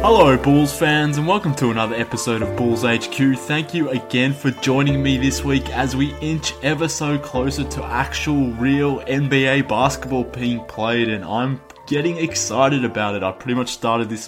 Hello Bulls fans and welcome to another episode of Bulls HQ. Thank you again for joining me this week as we inch ever so closer to actual real NBA basketball being played, and I'm getting excited about it. I pretty much started the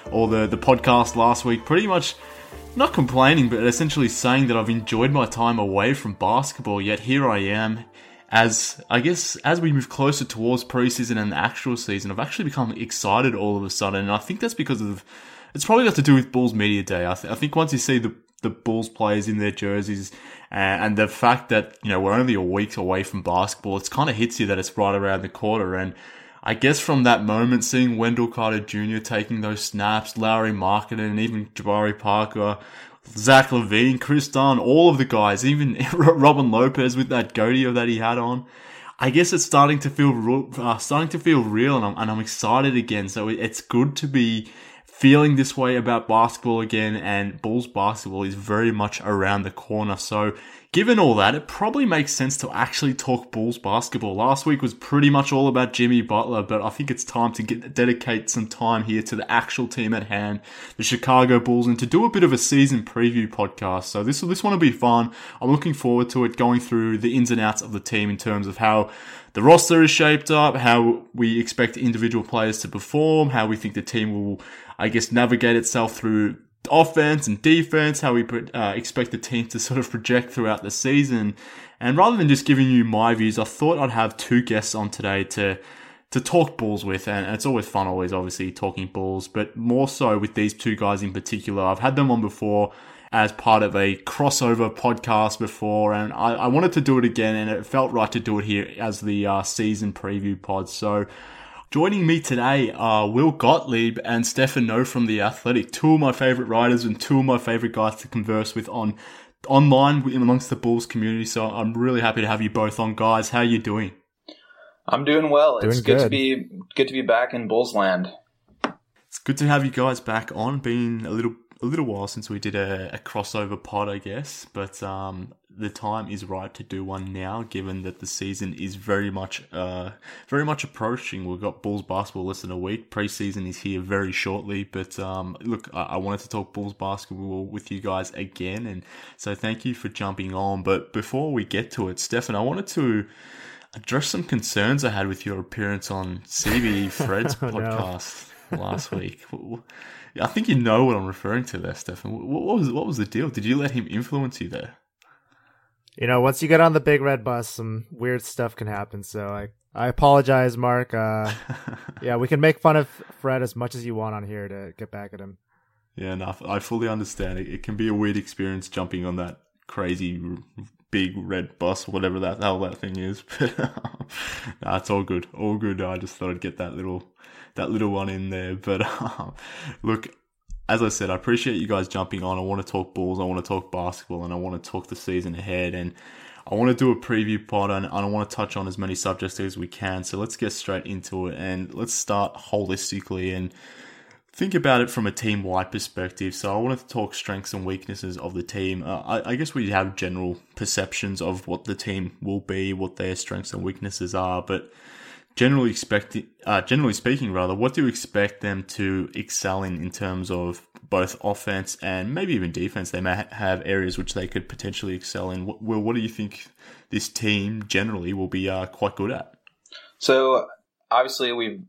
podcast last week pretty much not complaining, but essentially saying that I've enjoyed my time away from basketball, yet here I am. As we move closer towards preseason and the actual season, I've actually become excited all of a sudden, and I think that's because it's probably got to do with Bulls Media Day. I think once you see the Bulls players in their jerseys and the fact that, you know, we're only a week away from basketball, it kind of hits you that it's right around the corner. And I guess from that moment, seeing Wendell Carter Jr. taking those snaps, Lauri Markkanen, and even Jabari Parker, Zach LaVine, Chris Dunn, all of the guys, even Robin Lopez with that goatee that he had on. I guess it's starting to feel real, and I'm excited again. So it's good to be feeling this way about basketball again, and Bulls basketball is very much around the corner. So given all that, it probably makes sense to actually talk Bulls basketball. Last week was pretty much all about Jimmy Butler, but I think it's time to dedicate some time here to the actual team at hand, the Chicago Bulls, and to do a bit of a season preview podcast. So this one will be fun. I'm looking forward to it, going through the ins and outs of the team in terms of how the roster is shaped up, how we expect individual players to perform, how we think the team will, I guess, navigate itself through offense and defense, how we expect the team to sort of project throughout the season. And rather than just giving you my views, I thought I'd have two guests on today to talk Bulls with. And it's always fun, obviously, talking Bulls, but more so with these two guys in particular. I've had them on before as part of a crossover podcast before, and I wanted to do it again, and it felt right to do it here as the season preview pod. So joining me today are Will Gottlieb and Stefan Noh from The Athletic, two of my favourite writers and two of my favourite guys to converse with online amongst the Bulls community. So I'm really happy to have you both on, guys. How are you doing? I'm doing well. It's good to be back in Bulls land. It's good to have you guys back on. Been a little while since we did a crossover pod, I guess, but the time is right to do one now, given that the season is very much approaching. We've got Bulls basketball less than a week. Preseason is here very shortly, but look, I wanted to talk Bulls basketball with you guys again, and so thank you for jumping on. But before we get to it, Stefan, I wanted to address some concerns I had with your appearance on CBE Fred's podcast last week. I think you know what I'm referring to there, Stefan. What was the deal? Did you let him influence you there? You know, once you get on the big red bus, some weird stuff can happen. So I apologize, Mark. Yeah, we can make fun of Fred as much as you want on here to get back at him. Yeah, no, I fully understand. It can be a weird experience jumping on that crazy big red bus, whatever the hell that thing is. But nah, it's all good. All good. I just thought I'd get that little one in there. But look, as I said, I appreciate you guys jumping on. I want to talk Bulls, I want to talk basketball, and I want to talk the season ahead, and I want to do a preview pod, and I want to touch on as many subjects as we can. So let's get straight into it, and let's start holistically and think about it from a team-wide perspective. So I wanted to talk strengths and weaknesses of the team. I guess we have general perceptions of what the team will be, what their strengths and weaknesses are, but generally speaking, what do you expect them to excel in terms of both offense and maybe even defense? They may have areas which they could potentially excel in. What do you think this team generally will be quite good at? So obviously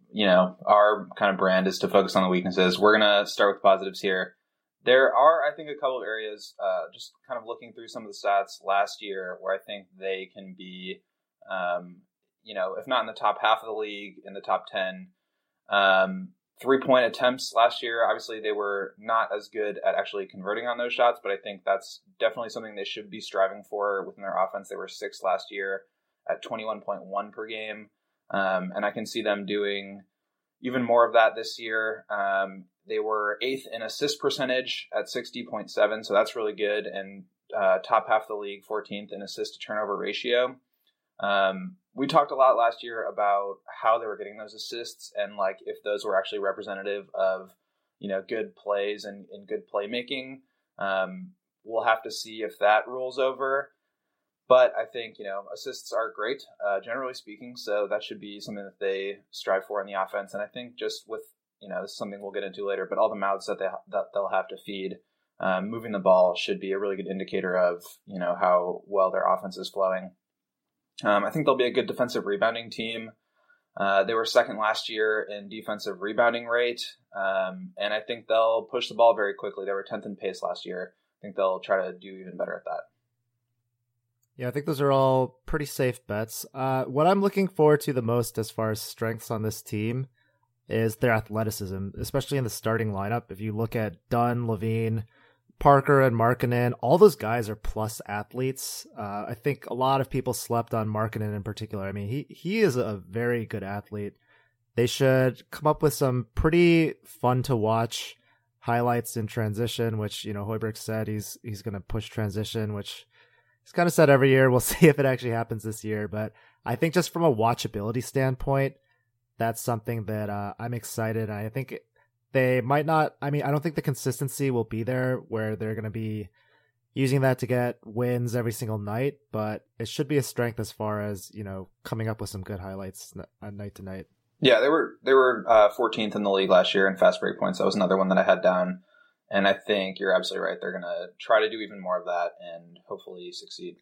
our kind of brand is to focus on the weaknesses. We're going to start with positives here. There are, I think, a couple of areas, just kind of looking through some of the stats last year where I think they can be, if not in the top half of the league, in the top 10. 3-point attempts last year, obviously they were not as good at actually converting on those shots, but I think that's definitely something they should be striving for within their offense. They were 6th last year at 21.1 per game. And I can see them doing even more of that this year. They were 8th in assist percentage at 60.7, so that's really good. And top half of the league, 14th in assist to turnover ratio. We talked a lot last year about how they were getting those assists and like if those were actually representative of, good plays and good playmaking. We'll have to see if that rolls over. But I think, assists are great, generally speaking. So that should be something that they strive for in the offense. And I think just with, this is something we'll get into later, but all the mouths that they'll have to feed, moving the ball should be a really good indicator of, how well their offense is flowing. I think they'll be a good defensive rebounding team. They were second last year in defensive rebounding rate, and I think they'll push the ball very quickly. They were 10th in pace last year. I think they'll try to do even better at that. Yeah, I think those are all pretty safe bets. What I'm looking forward to the most as far as strengths on this team is their athleticism, especially in the starting lineup. If you look at Dunn, Levine, Parker, and Markkanen, all those guys are plus athletes. I think a lot of people slept on Markkanen in particular. I mean, he is a very good athlete. They should come up with some pretty fun to watch highlights in transition, which, Hoiberg said he's going to push transition, which he's kind of said every year. We'll see if it actually happens this year. But I think just from a watchability standpoint, that's something that I'm excited. I think they might not, I don't think the consistency will be there where they're going to be using that to get wins every single night, but it should be a strength as far as, coming up with some good highlights night to night. Yeah, they were 14th in the league last year in fast break points. That was another one that I had down. And I think you're absolutely right. They're going to try to do even more of that and hopefully succeed.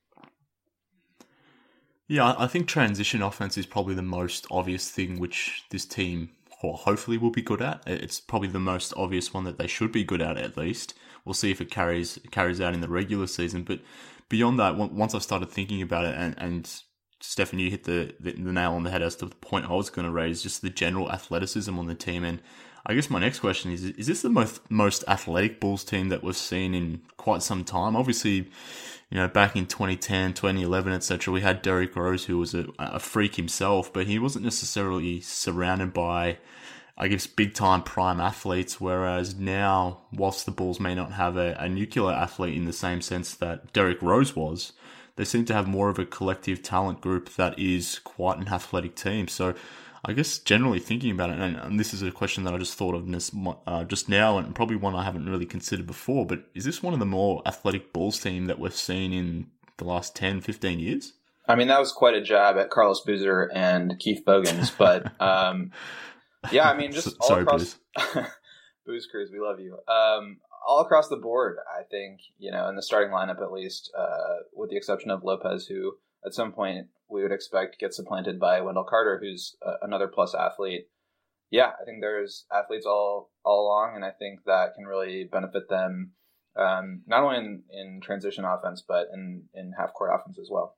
Yeah, I think transition offense is probably the most obvious thing which this team hopefully will be good at. It's probably the most obvious one that they should be good at least. We'll see if it carries out in the regular season. But beyond that, once I started thinking about it, and Stefan, you hit the nail on the head as to the point I was going to raise, just the general athleticism on the team. And I guess my next question is this the most athletic Bulls team that we've seen in quite some time? Obviously, back in 2010, 2011, etc., we had Derrick Rose, who was a freak himself, but he wasn't necessarily surrounded by, I guess, big-time prime athletes, whereas now, whilst the Bulls may not have a nuclear athlete in the same sense that Derrick Rose was, they seem to have more of a collective talent group that is quite an athletic team. So I guess generally thinking about it, and this is a question that I just thought of just now, and probably one I haven't really considered before, but is this one of the more athletic Bulls team that we've seen in the last 10, 15 years? That was quite a jab at Carlos Boozer and Keith Bogans, but yeah, just all sorry, across Booze Cruise, we love you. All across the board, I think, in the starting lineup at least, with the exception of Lopez, who at some point we would expect gets supplanted by Wendell Carter, who's another plus athlete. Yeah, I think there's athletes all along, and I think that can really benefit them, not only in transition offense, but in half-court offense as well.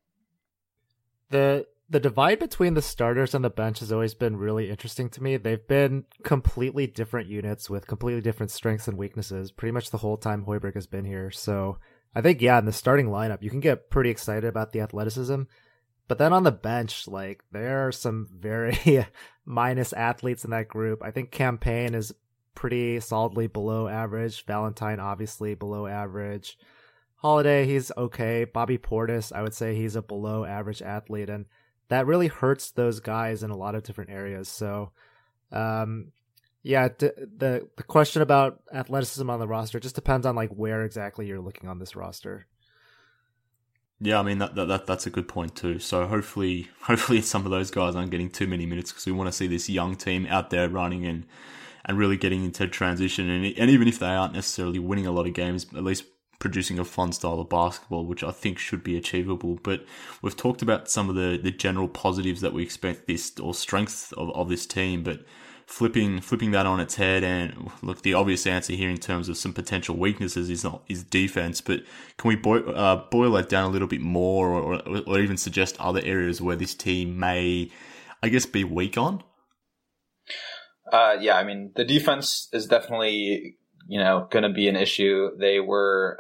The divide between the starters and the bench has always been really interesting to me. They've been completely different units with completely different strengths and weaknesses pretty much the whole time Hoiberg has been here. So I think, in the starting lineup, you can get pretty excited about the athleticism. But then on the bench, there are some very minus athletes in that group. I think Cam Payne is pretty solidly below average. Valentine, obviously, below average. Holiday, he's okay. Bobby Portis, I would say he's a below average athlete. And that really hurts those guys in a lot of different areas. So, the question about athleticism on the roster just depends on where exactly you're looking on this roster. Yeah, that's a good point too. So hopefully some of those guys aren't getting too many minutes because we want to see this young team out there running and really getting into transition. And even if they aren't necessarily winning a lot of games, at least producing a fun style of basketball, which I think should be achievable. But we've talked about some of the general positives that we expect or strengths of this team, but flipping that on its head, and look, the obvious answer here in terms of some potential weaknesses is defense, but can we boil that down a little bit more, or even suggest other areas where this team may, I guess, be weak on? The defense is definitely going to be an issue. They were,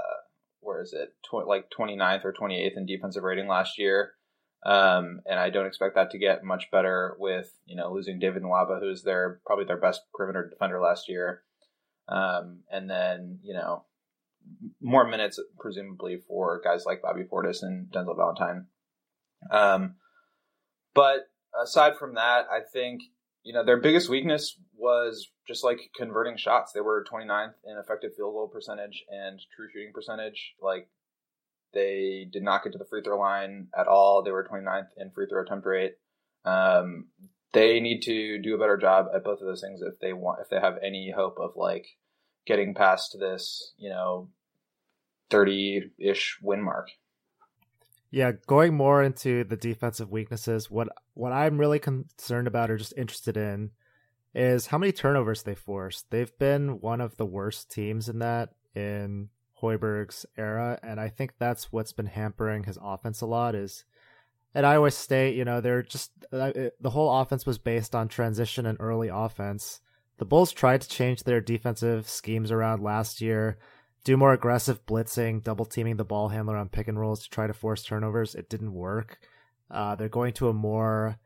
29th or 28th in defensive rating last year. And I don't expect that to get much better with, losing David Nwaba, who's probably their best perimeter defender last year. And then, more minutes presumably for guys like Bobby Portis and Denzel Valentine. But aside from that, I think, their biggest weakness was just converting shots. They were 29th in effective field goal percentage and true shooting percentage. They did not get to the free throw line at all. They were 29th in free throw attempt rate. They they need to do a better job at both of those things if they have any hope of like getting past this, 30-ish win mark. Yeah, going more into the defensive weaknesses, what I'm really concerned about or just interested in is how many turnovers they forced. They've been one of the worst teams in that in Hoiberg's era, and I think that's what's been hampering his offense a lot. Is at Iowa State, they're just the whole offense was based on transition and early offense. The Bulls tried to change their defensive schemes around last year, do more aggressive blitzing, double teaming the ball handler on pick and rolls to try to force turnovers. It didn't work. They're going to a more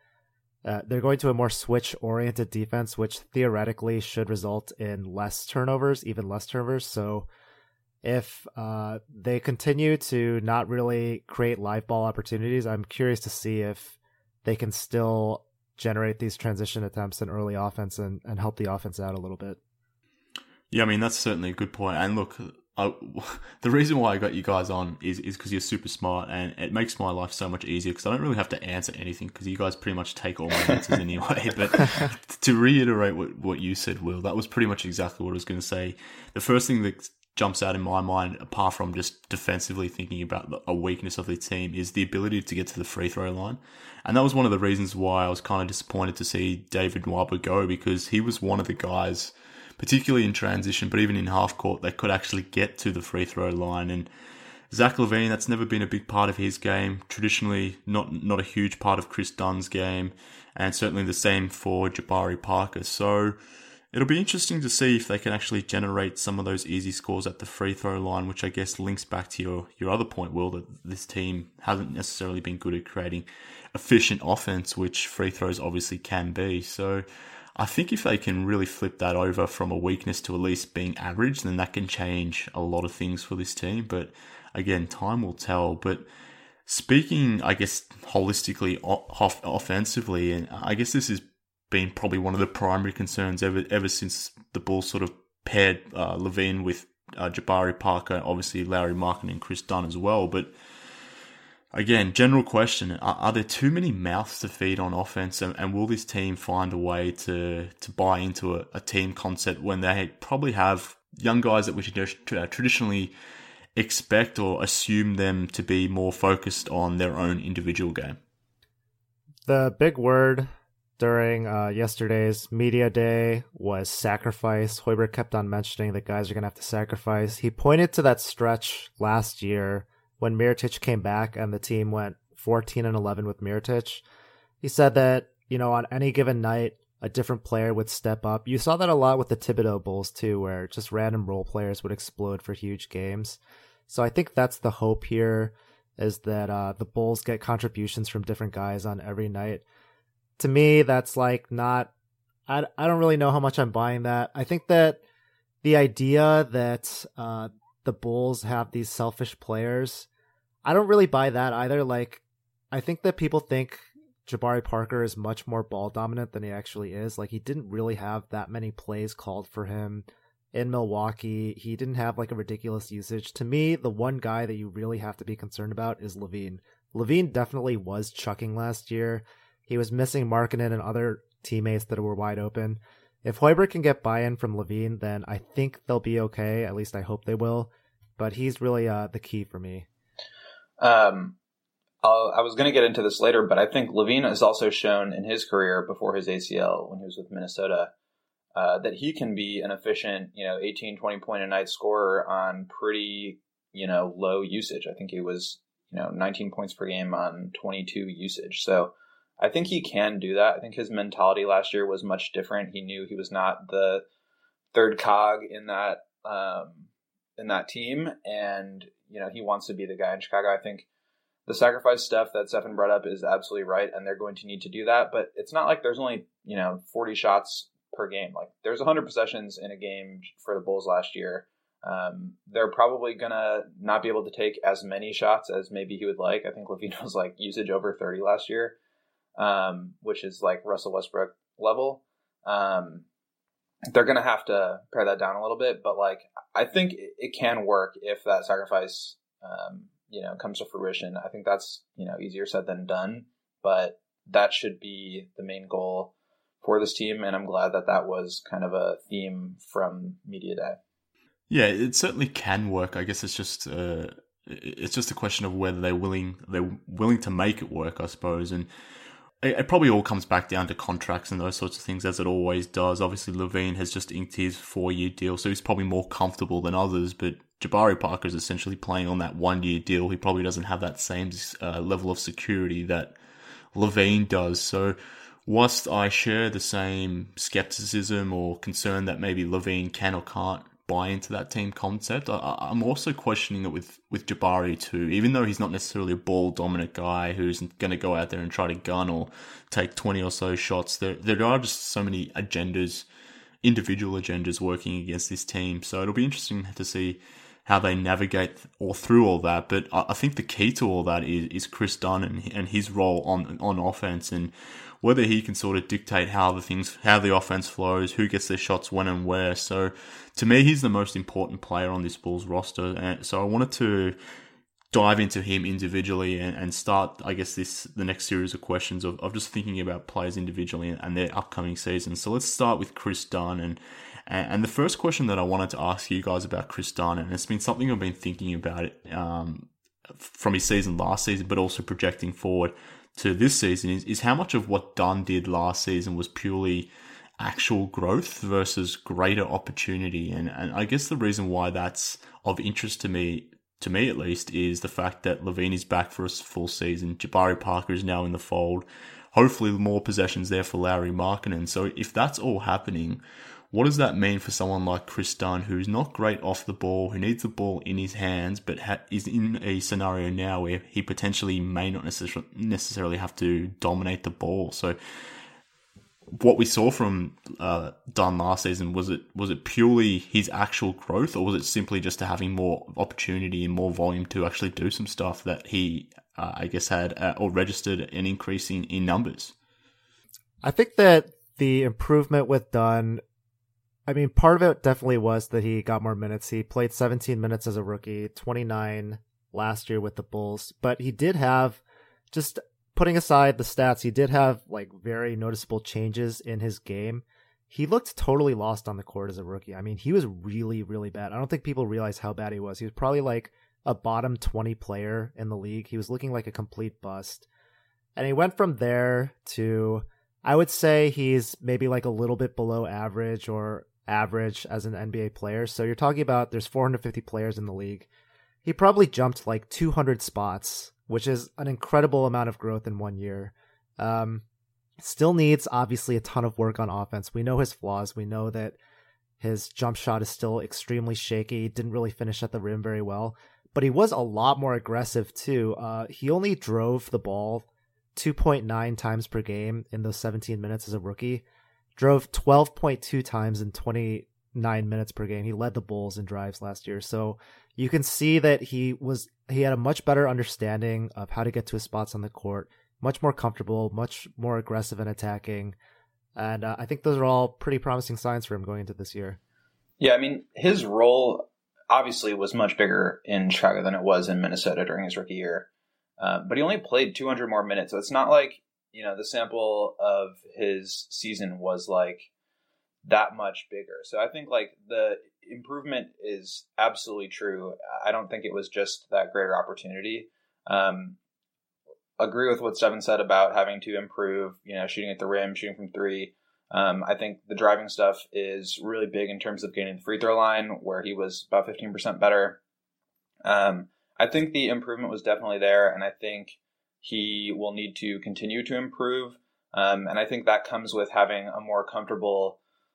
switch oriented defense, which theoretically should result in less turnovers, even less turnovers. So if they continue to not really create live ball opportunities, I'm curious to see if they can still generate these transition attempts in early offense and help the offense out a little bit. Yeah, I mean, that's certainly a good point. And look, the reason why I got you guys on is because you're super smart, and it makes my life so much easier because I don't really have to answer anything because you guys pretty much take all my answers anyway. But to reiterate what you said, Will, that was pretty much exactly what I was going to say. The first thing that jumps out in my mind, apart from just defensively thinking about a weakness of the team, is the ability to get to the free throw line. And that was one of the reasons why I was kind of disappointed to see David Nwaba go, because he was one of the guys, particularly in transition, but even in half court, that could actually get to the free throw line. And Zach LaVine, that's never been a big part of his game. Traditionally, not a huge part of Chris Dunn's game, and certainly the same for Jabari Parker. So it'll be interesting to see if they can actually generate some of those easy scores at the free throw line, which I guess links back to your other point, Will, that this team hasn't necessarily been good at creating efficient offense, which free throws obviously can be. So I think if they can really flip that over from a weakness to at least being average, then that can change a lot of things for this team. But again, time will tell. But speaking, I guess, holistically, offensively, and I guess this has been probably one of the primary concerns ever since the Bulls sort of paired LaVine with Jabari Parker, obviously Lauri Markkanen and Chris Dunn as well. But again, general question, are there too many mouths to feed on offense, and will this team find a way to buy into a team concept when they probably have young guys that we should traditionally expect or assume them to be more focused on their own individual game? The big word during yesterday's media day was sacrifice. Hoiberg kept on mentioning that guys are going to have to sacrifice. He pointed to that stretch last year when Mirotic came back and the team went 14-11 with Mirotic. He said that, on any given night, a different player would step up. You saw that a lot with the Thibodeau Bulls too, where just random role players would explode for huge games. So I think that's the hope here, is that the Bulls get contributions from different guys on every night. To me, that's like not, I don't really know how much I'm buying that. I think that the idea that the Bulls have these selfish players, I don't really buy that either. Like, I think that people think Jabari Parker is much more ball dominant than he actually is. Like, he didn't really have that many plays called for him in Milwaukee. He didn't have like a ridiculous usage. To me, the one guy that you really have to be concerned about is LaVine. LaVine definitely was chucking last year. He was missing Markkanen and other teammates that were wide open. If Hoiberg can get buy-in from LaVine, then I think they'll be okay. At least I hope they will. But he's really the key for me. I was going to get into this later, but I think LaVine has also shown in his career before his ACL, when he was with Minnesota, that he can be an efficient, 18, 20 point a night scorer on pretty, low usage. I think he was, 19 points per game on 22 usage. So I think he can do that. I think his mentality last year was much different. He knew he was not the third cog in that team, and he wants to be the guy in Chicago. I think the sacrifice stuff that Stefan brought up is absolutely right, and they're going to need to do that. But it's not like there's only 40 shots per game. Like, there's 100 possessions in a game for the Bulls last year. They're probably gonna not be able to take as many shots as maybe he would like. I think LaVine was like usage over 30 last year. Which is like Russell Westbrook level. They're going to have to pare that down a little bit, but like, I think it can work if that sacrifice, comes to fruition. I think that's, easier said than done, but that should be the main goal. for this team, and I'm glad that that was kind of a theme from Media Day. Yeah, it certainly can work. I guess it's just a question of whether they're willing to make it work, I suppose. And it probably all comes back down to contracts and those sorts of things, as it always does. Obviously, LaVine has just inked his 4-year deal, so he's probably more comfortable than others. But Jabari Parker is essentially playing on that 1-year deal. He probably doesn't have that same level of security that LaVine does. So whilst I share the same skepticism or concern that maybe LaVine can or can't buy into that team concept, I'm also questioning it with Jabari too. Even though he's not necessarily a ball dominant guy who's going to go out there and try to gun or take 20 or so shots, there are just so many agendas, individual agendas working against this team. So it'll be interesting to see how they navigate through all that. But I think the key to all that is Chris Dunn and his role on offense, and whether he can sort of dictate how the offense flows, who gets their shots when and where. So to me, he's the most important player on this Bulls roster. And so I wanted to dive into him individually and start, I guess, the next series of questions of just thinking about players individually and their upcoming season. So let's start with Chris Dunn. And the first question that I wanted to ask you guys about Chris Dunn, and it's been something I've been thinking about it from his season last season, but also projecting forward to this season, is how much of what Dunn did last season was purely actual growth versus greater opportunity. And I guess the reason why that's of interest to me at least, is the fact that LaVine is back for a full season. Jabari Parker is now in the fold. Hopefully more possessions there for Lauri Markkanen. So if that's all happening, what does that mean for someone like Chris Dunn, who's not great off the ball, who needs the ball in his hands, but is in a scenario now where he potentially may not necessarily have to dominate the ball? So what we saw from Dunn last season, was it purely his actual growth, or was it simply just having more opportunity and more volume to actually do some stuff that he, I guess, had or registered an increase in numbers? I think that the improvement with Dunn, I mean, part of it definitely was that he got more minutes. He played 17 minutes as a rookie, 29 last year with the Bulls, but he did have, just putting aside the stats, he did have like very noticeable changes in his game. He looked totally lost on the court as a rookie. I mean, he was really, really bad. I don't think people realize how bad he was. He was probably like a bottom 20 player in the league. He was looking like a complete bust. And he went from there to, I would say he's maybe like a little bit below average or average as an NBA player. So you're talking about there's 450 players in the league. He probably jumped like 200 spots, which is an incredible amount of growth in 1 year. Still needs obviously a ton of work on offense. We know his flaws. We know that his jump shot is still extremely shaky. Didn't really finish at the rim very well, but he was a lot more aggressive too. He only drove the ball 2.9 times per game in those 17 minutes as a rookie. Drove 12.2 times in 29 minutes per game. He led the Bulls in drives last year. So you can see that he had a much better understanding of how to get to his spots on the court, much more comfortable, much more aggressive in attacking. And I think those are all pretty promising signs for him going into this year. Yeah, I mean, his role obviously was much bigger in Chicago than it was in Minnesota during his rookie year. But he only played 200 more minutes. So it's not like, the sample of his season was like that much bigger. So I think like the improvement is absolutely true. I don't think it was just that greater opportunity. Agree with what Stephen said about having to improve, shooting at the rim, shooting from three. I think the driving stuff is really big in terms of getting the free throw line, where he was about 15% better. I think the improvement was definitely there, and I think he will need to continue to improve. And I think that comes with having a more comfortable,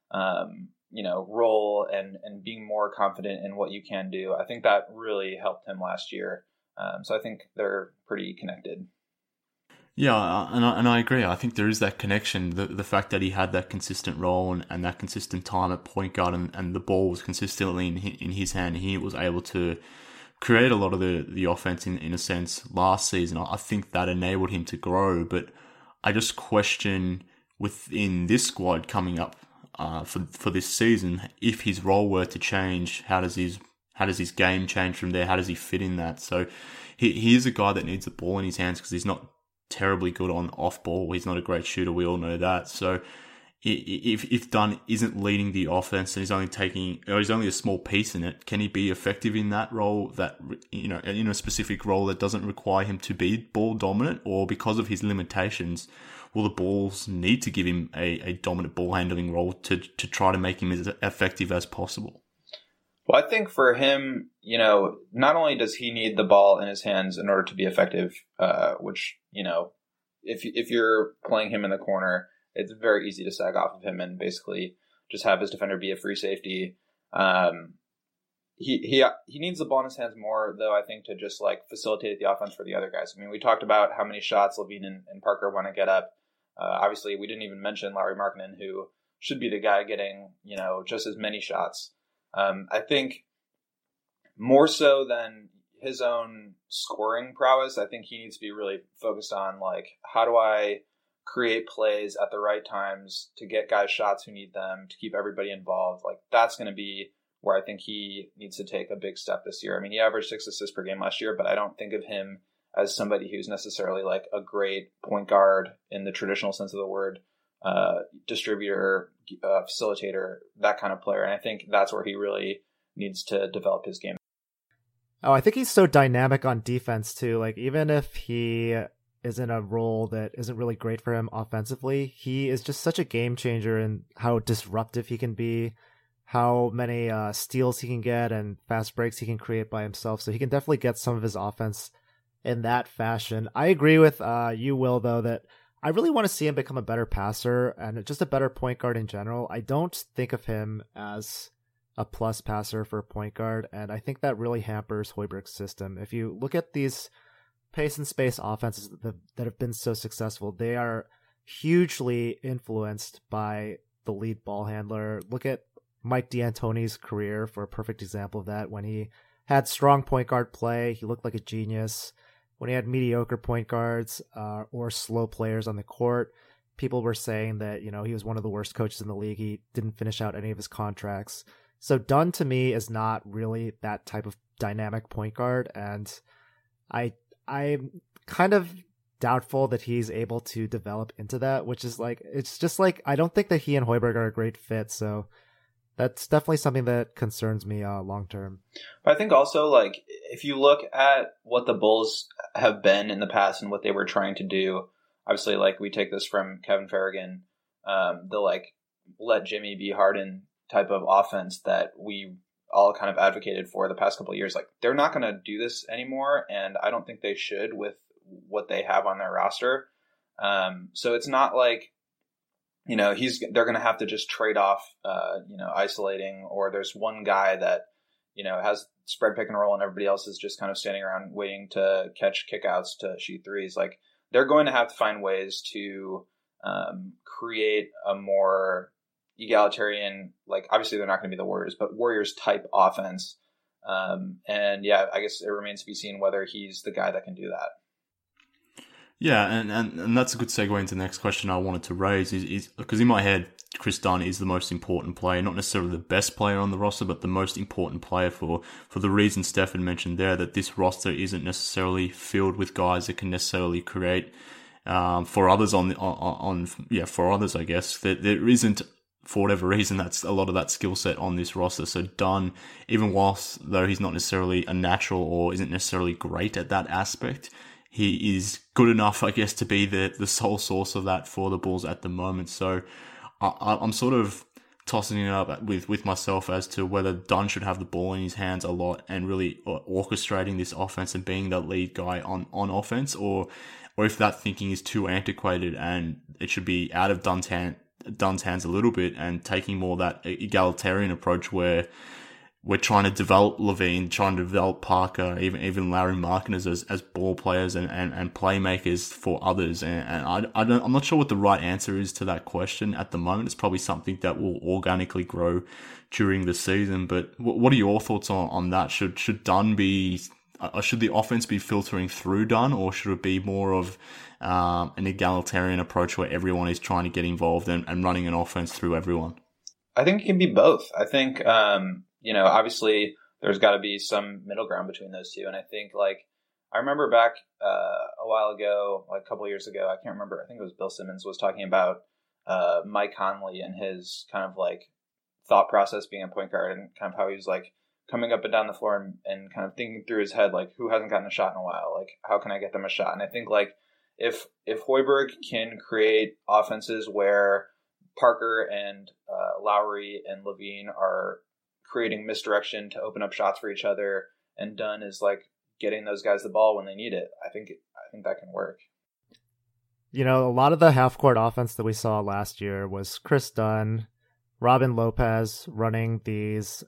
role and being more confident in what you can do. I think that really helped him last year. So I think they're pretty connected. Yeah, and I agree. I think there is that connection. The fact that he had that consistent role and that consistent time at point guard, and the ball was consistently in his hand, he was able to create a lot of the offense in a sense last season. I think that enabled him to grow, but I just question within this squad coming up for this season, if his role were to change, how does his game change from there? How does he fit in that? So he is a guy that needs the ball in his hands because he's not terribly good on off ball. He's not a great shooter. We all know that. So if Dunn isn't leading the offense and he's only a small piece in it, can he be effective in that role, that, you know, in a specific role that doesn't require him to be ball dominant? Or because of his limitations, will the Bulls need to give him a dominant ball handling role to try to make him as effective as possible? Well, I think for him, you know, not only does he need the ball in his hands in order to be effective, which, you know, if you're playing him in the corner, it's very easy to sag off of him and basically just have his defender be a free safety. He needs the ball in his hands more, though, I think, to just like facilitate the offense for the other guys. I mean, we talked about how many shots LaVine and Parker want to get up. Obviously, we didn't even mention Lauri Markkanen, who should be the guy getting, you know, just as many shots. I think more so than his own scoring prowess, I think he needs to be really focused on, like, how do I create plays at the right times to get guys shots who need them, to keep everybody involved. Like, that's going to be where I think he needs to take a big step this year. I mean, he averaged 6 assists per game last year, but I don't think of him as somebody who's necessarily like a great point guard in the traditional sense of the word, distributor, facilitator, that kind of player. And I think that's where he really needs to develop his game. Oh, I think he's so dynamic on defense too. Like, even if he is in a role that isn't really great for him offensively, he is just such a game changer in how disruptive he can be, how many steals he can get and fast breaks he can create by himself. So he can definitely get some of his offense in that fashion. I agree with you, Will, though, that I really want to see him become a better passer and just a better point guard in general. I don't think of him as a plus passer for a point guard, and I think that really hampers Hoiberg's system. If you look at these pace and space offenses that have been so successful, they are hugely influenced by the lead ball handler. Look at Mike D'Antoni's career for a perfect example of that. When he had strong point guard play, he looked like a genius. When he had mediocre point guards or slow players on the court, people were saying that, you know, he was one of the worst coaches in the league. He didn't finish out any of his contracts. So Dunn, to me, is not really that type of dynamic point guard, and I'm kind of doubtful that he's able to develop into that, which is like, it's just like, I don't think that he and Hoiberg are a great fit. So that's definitely something that concerns me long term. But I think also, like, if you look at what the Bulls have been in the past and what they were trying to do, obviously, like, we take this from Kevin Farragon, the like let Jimmy be Harden type of offense that we all kind of advocated for the past couple of years. Like, they're not going to do this anymore, and I don't think they should with what they have on their roster. So it's not like, you know, they're going to have to just trade off, you know, isolating, or there's one guy that, you know, has spread pick and roll and everybody else is just kind of standing around waiting to catch kickouts to shoot threes. Like, they're going to have to find ways to create a more egalitarian, like, obviously they're not going to be the Warriors, but Warriors type offense. And yeah, I guess it remains to be seen whether he's the guy that can do that. Yeah, and that's a good segue into the next question I wanted to raise is because in my head, Chris Dunn is the most important player, not necessarily the best player on the roster, but the most important player for the reason Stefan mentioned there, that this roster isn't necessarily filled with guys that can necessarily create for others for others, I guess. There isn't, for whatever reason, that's a lot of that skill set on this roster. So Dunn, even whilst though he's not necessarily a natural or isn't necessarily great at that aspect, he is good enough, I guess, to be the sole source of that for the Bulls at the moment. So I'm sort of tossing it up with myself as to whether Dunn should have the ball in his hands a lot and really orchestrating this offense and being the lead guy on offense, or if that thinking is too antiquated and it should be out of Dunn's hands a little bit and taking more that egalitarian approach where we're trying to develop LaVine, trying to develop Parker, even Lauri Markkanen as ball players and playmakers for others. And I'm not sure what the right answer is to that question at the moment. It's probably something that will organically grow during the season. But what are your thoughts on that? Should Dunn be, should the offense be filtering through Dunn, or should it be more of an egalitarian approach where everyone is trying to get involved and running an offense through everyone? I think it can be both. I think, you know, obviously there's got to be some middle ground between those two. And I think, like, I remember back a while ago, like a couple of years ago, I can't remember, I think it was Bill Simmons was talking about Mike Conley and his kind of like thought process being a point guard, and kind of how he was like coming up and down the floor and kind of thinking through his head, like, who hasn't gotten a shot in a while? Like, how can I get them a shot? And I think like if Hoiberg can create offenses where Parker and Lowry and Levine are creating misdirection to open up shots for each other, and Dunn is like getting those guys the ball when they need it, I think that can work. You know, a lot of the half-court offense that we saw last year was Chris Dunn, Robin Lopez running these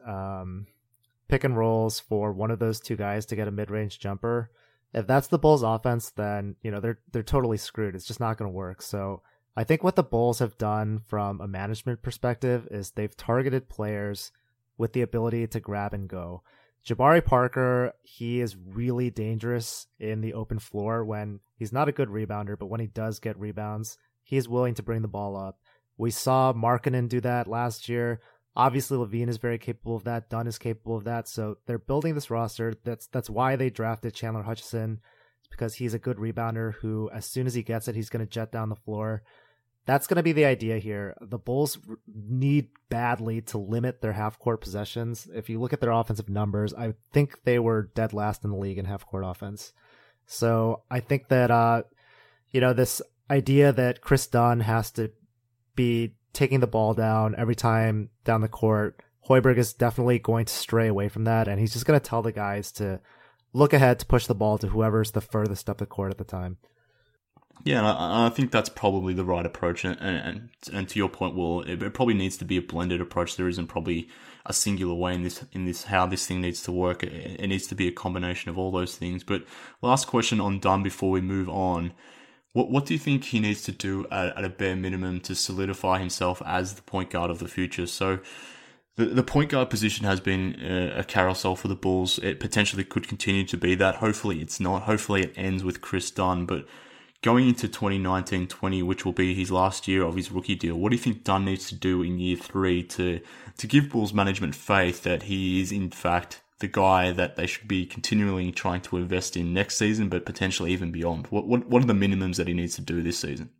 pick and rolls for one of those two guys to get a mid-range jumper. If that's the Bulls offense, then, you know, they're totally screwed. It's just not going to work. So I think what the Bulls have done from a management perspective is they've targeted players with the ability to grab and go. Jabari Parker, he is really dangerous in the open floor when he's not a good rebounder, but when he does get rebounds, he is willing to bring the ball up. We saw Markkanen do that last year. Obviously, Levine is very capable of that. Dunn is capable of that. So they're building this roster. That's why they drafted Chandler Hutchison. It's because he's a good rebounder who, as soon as he gets it, he's going to jet down the floor. That's going to be the idea here. The Bulls need badly to limit their half-court possessions. If you look at their offensive numbers, I think they were dead last in the league in half-court offense. So I think that, this idea that Chris Dunn has to be taking the ball down every time down the court, Hoiberg is definitely going to stray away from that, and he's just going to tell the guys to look ahead to push the ball to whoever's the furthest up the court at the time. Yeah, and I think that's probably the right approach. And to your point, Will, it probably needs to be a blended approach. There isn't probably a singular way in this how this thing needs to work. It needs to be a combination of all those things. But last question on Dunn before we move on. What do you think he needs to do at a bare minimum to solidify himself as the point guard of the future? So the point guard position has been a carousel for the Bulls. It potentially could continue to be that. Hopefully it's not. Hopefully it ends with Chris Dunn. But going into 2019-20, which will be his last year of his rookie deal, what do you think Dunn needs to do in year 3 to give Bulls management faith that he is in fact the guy that they should be continually trying to invest in next season, but potentially even beyond? What are the minimums that he needs to do this season?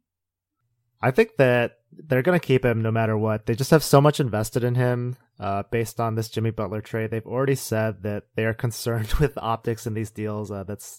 I think that they're going to keep him no matter what. They just have so much invested in him based on this Jimmy Butler trade. They've already said that they are concerned with optics in these deals.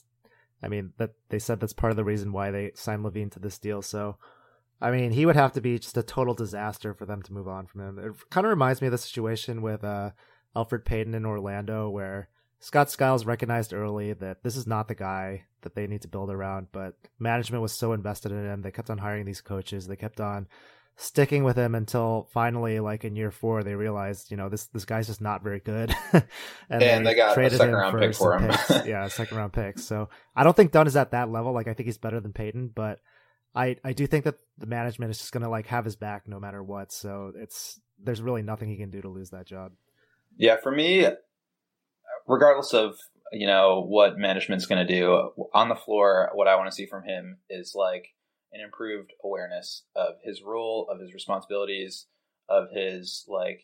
That they said that's part of the reason why they signed Levine to this deal. So, I mean, he would have to be just a total disaster for them to move on from him. It kind of reminds me of the situation with Elfrid Payton in Orlando, where Scott Skiles recognized early that this is not the guy that they need to build around, but management was so invested in him. They kept on hiring these coaches. They kept on sticking with him until finally, like in year 4, they realized, this guy's just not very good. and they got a second round pick for him. Yeah, a second round pick. So I don't think Dunn is at that level. Like, I think he's better than Payton, but I do think that the management is just going to have his back no matter what. So there's really nothing he can do to lose that job. Yeah, for me, regardless of, what management's going to do on the floor, what I want to see from him is like an improved awareness of his role, of his responsibilities, of his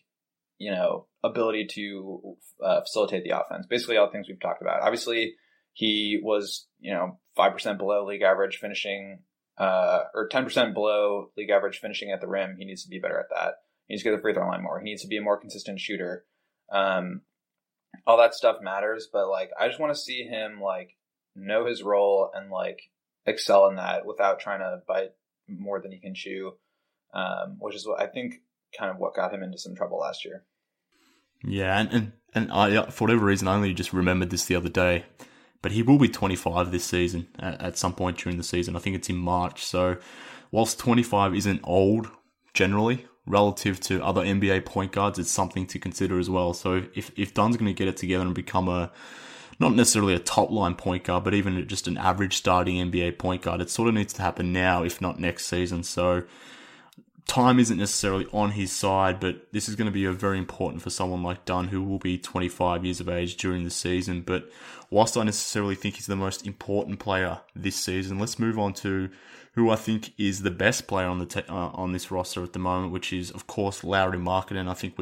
ability to facilitate the offense. Basically all the things we've talked about. Obviously he was, 5% below league average finishing, or 10% below league average finishing at the rim. He needs to be better at that. He needs to get the free throw line more. He needs to be a more consistent shooter. All that stuff matters, but I just want to see him know his role and excel in that without trying to bite more than he can chew, which is what I think kind of what got him into some trouble last year. Yeah, and I, for whatever reason, I only just remembered this the other day, but he will be 25 this season at some point during the season. I think it's in March. So whilst 25 isn't old generally relative to other NBA point guards, it's something to consider as well. So if Dunn's going to get it together and become not necessarily a top line point guard, but even just an average starting NBA point guard, it sort of needs to happen now, if not next season. So time isn't necessarily on his side, but this is going to be very important for someone like Dunn, who will be 25 years of age during the season. But whilst I necessarily think he's the most important player this season, let's move on to who I think is the best player on this roster at the moment, which is, of course, Lauri Markkanen. I think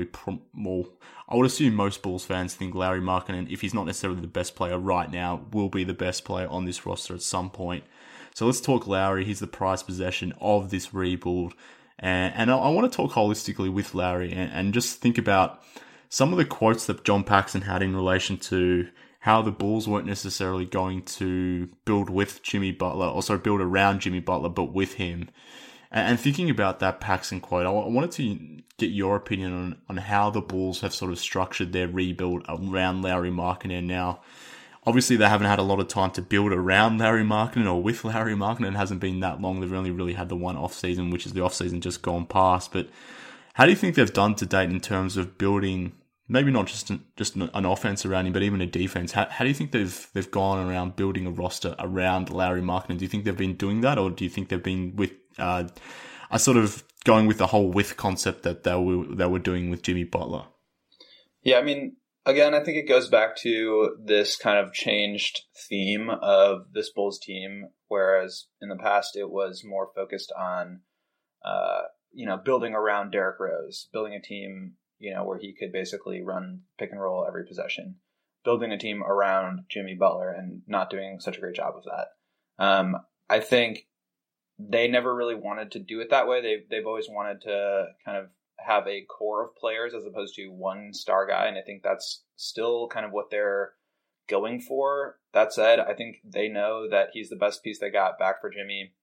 I would assume most Bulls fans think Lauri Markkanen, if he's not necessarily the best player right now, will be the best player on this roster at some point. So let's talk Lauri. He's the prized possession of this rebuild. And I want to talk holistically with Lowry and just think about some of the quotes that John Paxson had in relation to how the Bulls weren't necessarily going to build with Jimmy Butler, also build around Jimmy Butler, but with him. And thinking about that Paxson quote, I wanted to get your opinion on how the Bulls have sort of structured their rebuild around Lauri Markkanen now. Obviously, they haven't had a lot of time to build around Lauri Markkanen or with Lauri Markkanen. It hasn't been that long. They've only really had the one off-season, which is the off-season just gone past. But how do you think they've done to date in terms of building, maybe not just an offense around him, but even a defense? How do you think they've gone around building a roster around Lauri Markkanen? Do you think they've been doing that, or do you think they've been with a sort of going with the whole with concept that they were doing with Jimmy Butler? Yeah, I mean, again, I think it goes back to this kind of changed theme of this Bulls team, whereas in the past it was more focused on, building around Derrick Rose, building a team, where he could basically run pick and roll every possession, building a team around Jimmy Butler and not doing such a great job of that. I think they never really wanted to do it that way. They've always wanted to kind of have a core of players as opposed to one star guy. And I think that's still kind of what they're going for. That said, I think they know that he's the best piece they got back for Jimmy.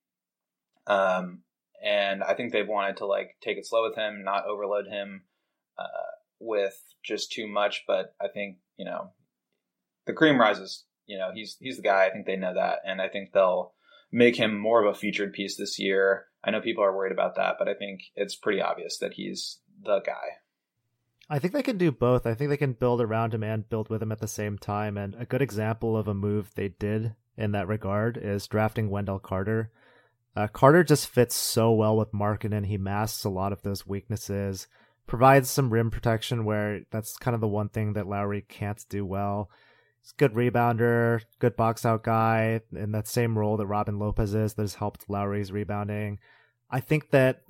And I think they've wanted to take it slow with him, not overload him with just too much. But I think, the cream rises, he's the guy. I think they know that. And I think they'll make him more of a featured piece this year. I know people are worried about that, but I think it's pretty obvious that he's the guy. I think they can do both. I think they can build around him and build with him at the same time. And a good example of a move they did in that regard is drafting Wendell Carter. Carter just fits so well with Markkanen. He masks a lot of those weaknesses, provides some rim protection where that's kind of the one thing that Lowry can't do well. He's a good rebounder, good box out guy in that same role that Robin Lopez is that has helped Lowry's rebounding. I think that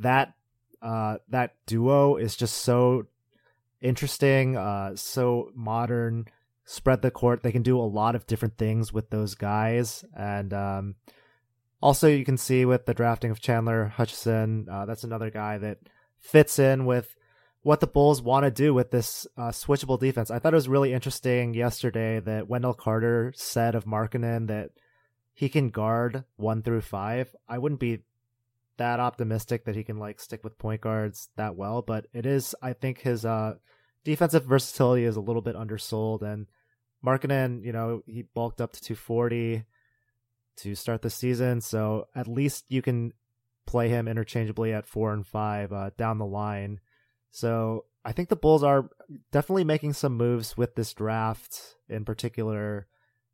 duo is just so interesting, so modern, spread the court. They can do a lot of different things with those guys. And also you can see with the drafting of Chandler Hutchison, that's another guy that fits in with what the Bulls want to do with this switchable defense. I thought it was really interesting yesterday that Wendell Carter said of Markkanen that he can guard 1 through 5. I wouldn't be that optimistic that he can stick with point guards that well, but it is, I think his defensive versatility is a little bit undersold. And Markkanen, he bulked up to 240 to start the season, so at least you can play him interchangeably at 4 and 5 down the line. So I think the Bulls are definitely making some moves with this draft in particular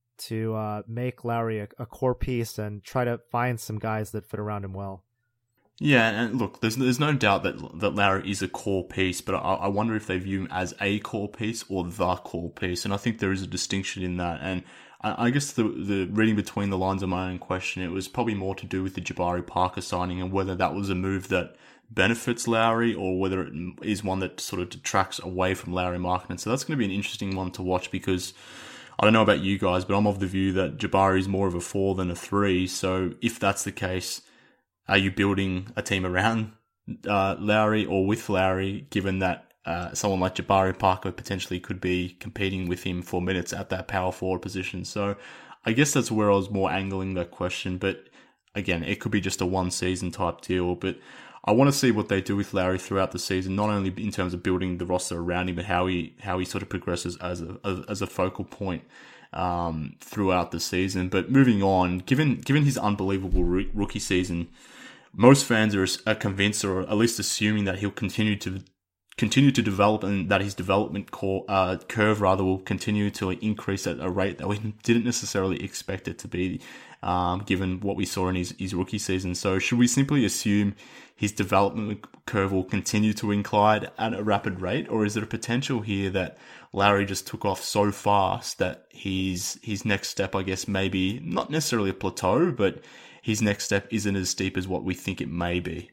to make Lowry a core piece and try to find some guys that fit around him well. Yeah, and look, there's no doubt that Lowry is a core piece, but I wonder if they view him as a core piece or the core piece, and I think there is a distinction in that. And I guess the reading between the lines of my own question, it was probably more to do with the Jabari Parker signing and whether that was a move that benefits Lowry or whether it is one that sort of detracts away from Lauri Markkanen. So that's going to be an interesting one to watch because I don't know about you guys, but I'm of the view that Jabari is more of a 4 than a 3. So if that's the case, are you building a team around Lowry or with Lowry, given that someone like Jabari Parker potentially could be competing with him for minutes at that power forward position? So I guess that's where I was more angling that question. But again, it could be just a one season type deal. But I want to see what they do with Lowry throughout the season, not only in terms of building the roster around him, but how he sort of progresses as a focal point throughout the season. But moving on, given his unbelievable rookie season, most fans are convinced, or at least assuming, that he'll continue to develop and that his development curve will continue to increase at a rate that we didn't necessarily expect it to be, given what we saw in his rookie season. So should we simply assume his development curve will continue to incline at a rapid rate, or is there a potential here that Lowry just took off so fast that his next step, I guess, maybe not necessarily a plateau, but his next step isn't as steep as what we think it may be?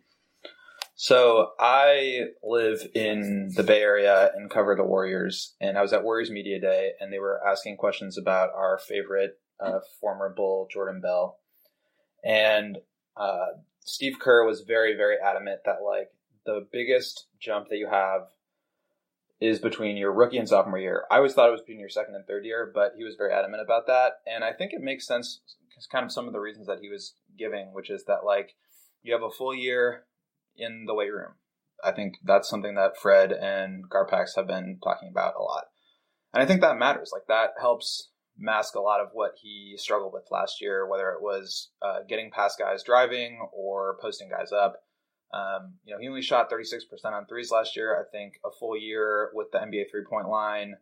So I live in the Bay Area and cover the Warriors, and I was at Warriors Media Day, and they were asking questions about our favorite former Bull, Jordan Bell. And Steve Kerr was very, very adamant that like the biggest jump that you have is between your rookie and sophomore year. I always thought it was between your second and third year, but he was very adamant about that. And I think it makes sense because kind of some of the reasons that he was giving, which is that like you have a full year in the weight room. I think that's something that Fred and Garpax have been talking about a lot. And I think that matters. Like that helps mask a lot of what he struggled with last year, whether it was getting past guys driving or posting guys up. He only shot 36% on threes last year. I think a full year with the NBA 3-point line,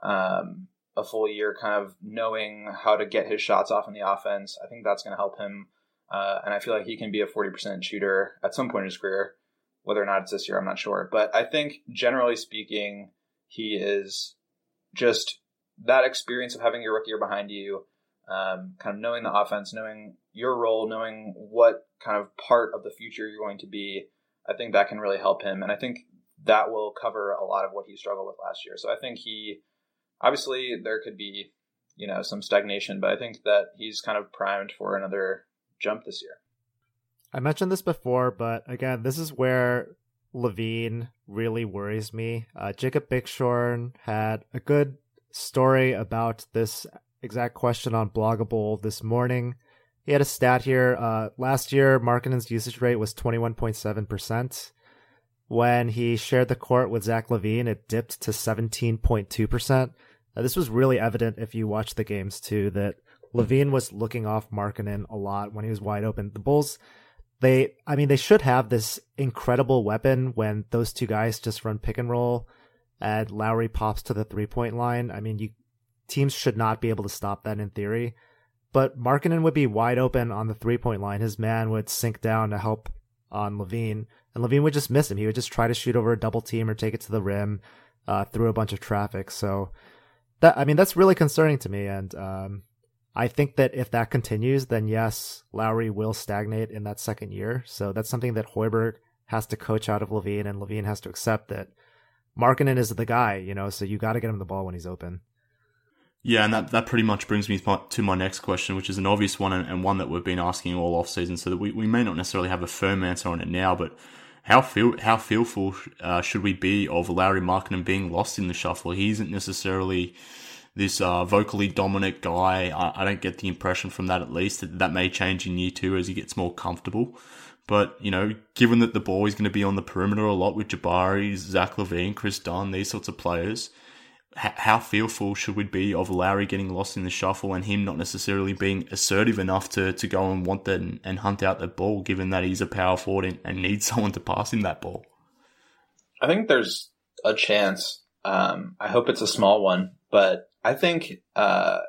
a full year kind of knowing how to get his shots off in the offense, I think that's going to help him. And I feel like he can be a 40% shooter at some point in his career. Whether or not it's this year, I'm not sure. But I think generally speaking, he is just that experience of having your rookie year behind you, kind of knowing the offense, knowing your role, knowing what kind of part of the future you're going to be. I think that can really help him. And I think that will cover a lot of what he struggled with last year. So I think obviously there could be, some stagnation, but I think that he's kind of primed for another jump this year. I mentioned this before, but again, this is where LaVine really worries me. Jacob Bickshorn had a good story about this exact question on Bloggable this morning. He had a stat here. Last year, Markkanen's usage rate was 21.7%. When he shared the court with Zach LaVine, it dipped to 17.2%. This was really evident if you watch the games too, that LaVine was looking off Markkanen a lot when he was wide open. The Bulls, they should have this incredible weapon when those two guys just run pick and roll and Lowry pops to the 3-point line. Teams should not be able to stop that in theory. But Markkanen would be wide open on the 3-point line. His man would sink down to help on LaVine, and LaVine would just miss him. He would just try to shoot over a double team or take it to the rim through a bunch of traffic. So that's really concerning to me. And I think that if that continues, then yes, Lowry will stagnate in that second year. So that's something that Hoiberg has to coach out of LaVine, and LaVine has to accept that Markkanen is the guy, so you got to get him the ball when he's open. Yeah, and that pretty much brings me to my next question, which is an obvious one and one that we've been asking all offseason, so that we may not necessarily have a firm answer on it now, but how fearful should we be of Lauri Markkanen being lost in the shuffle? He isn't necessarily this vocally dominant guy. I don't get the impression from that, at least, that may change in year two as he gets more comfortable. But, given that the ball is going to be on the perimeter a lot with Jabari, Zach LaVine, Chris Dunn, these sorts of players, how fearful should we be of Lowry getting lost in the shuffle and him not necessarily being assertive enough to go and want that and hunt out that ball, given that he's a power forward and needs someone to pass him that ball? I think there's a chance. I hope it's a small one, but I think I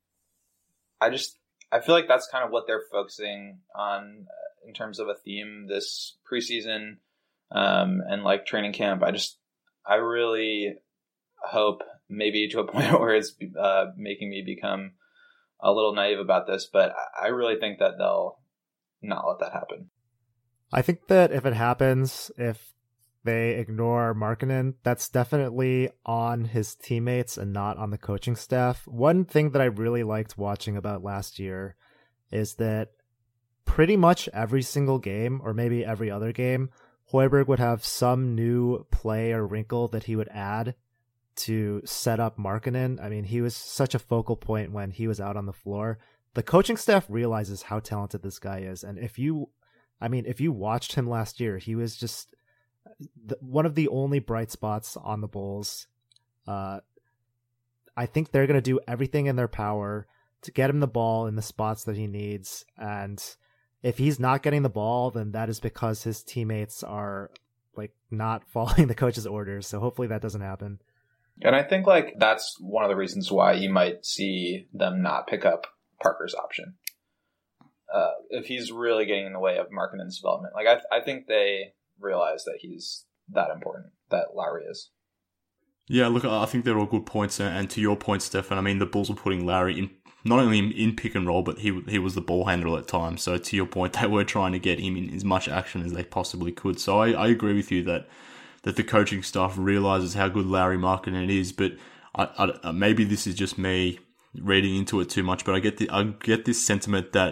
feel like that's kind of what they're focusing on in terms of a theme this preseason and like training camp. I really hope, maybe to a point where it's making me become a little naive about this, but I really think that they'll not let that happen. I think that if it happens, if they ignore Markkanen, that's definitely on his teammates and not on the coaching staff. One thing that I really liked watching about last year is that pretty much every single game, or maybe every other game, Hoiberg would have some new play or wrinkle that he would add to set up Markkanen. He was such a focal point when he was out on the floor. The coaching staff realizes how talented this guy is. And if you watched him last year, he was just one of the only bright spots on the Bulls. I think they're going to do everything in their power to get him the ball in the spots that he needs. And if he's not getting the ball, then that is because his teammates are not following the coach's orders. So hopefully that doesn't happen. And I think that's one of the reasons why you might see them not pick up Parker's option. If he's really getting in the way of Markkanen's development. I think they realize that he's that important, that Lowry is. Yeah, look, I think they're all good points. And to your point, Stefan, the Bulls were putting Lowry in, not only in pick and roll, but he was the ball handler at times. So to your point, they were trying to get him in as much action as they possibly could. So I agree with you that the coaching staff realizes how good Lauri Markkanen is, but maybe this is just me reading into it too much, but I get this sentiment that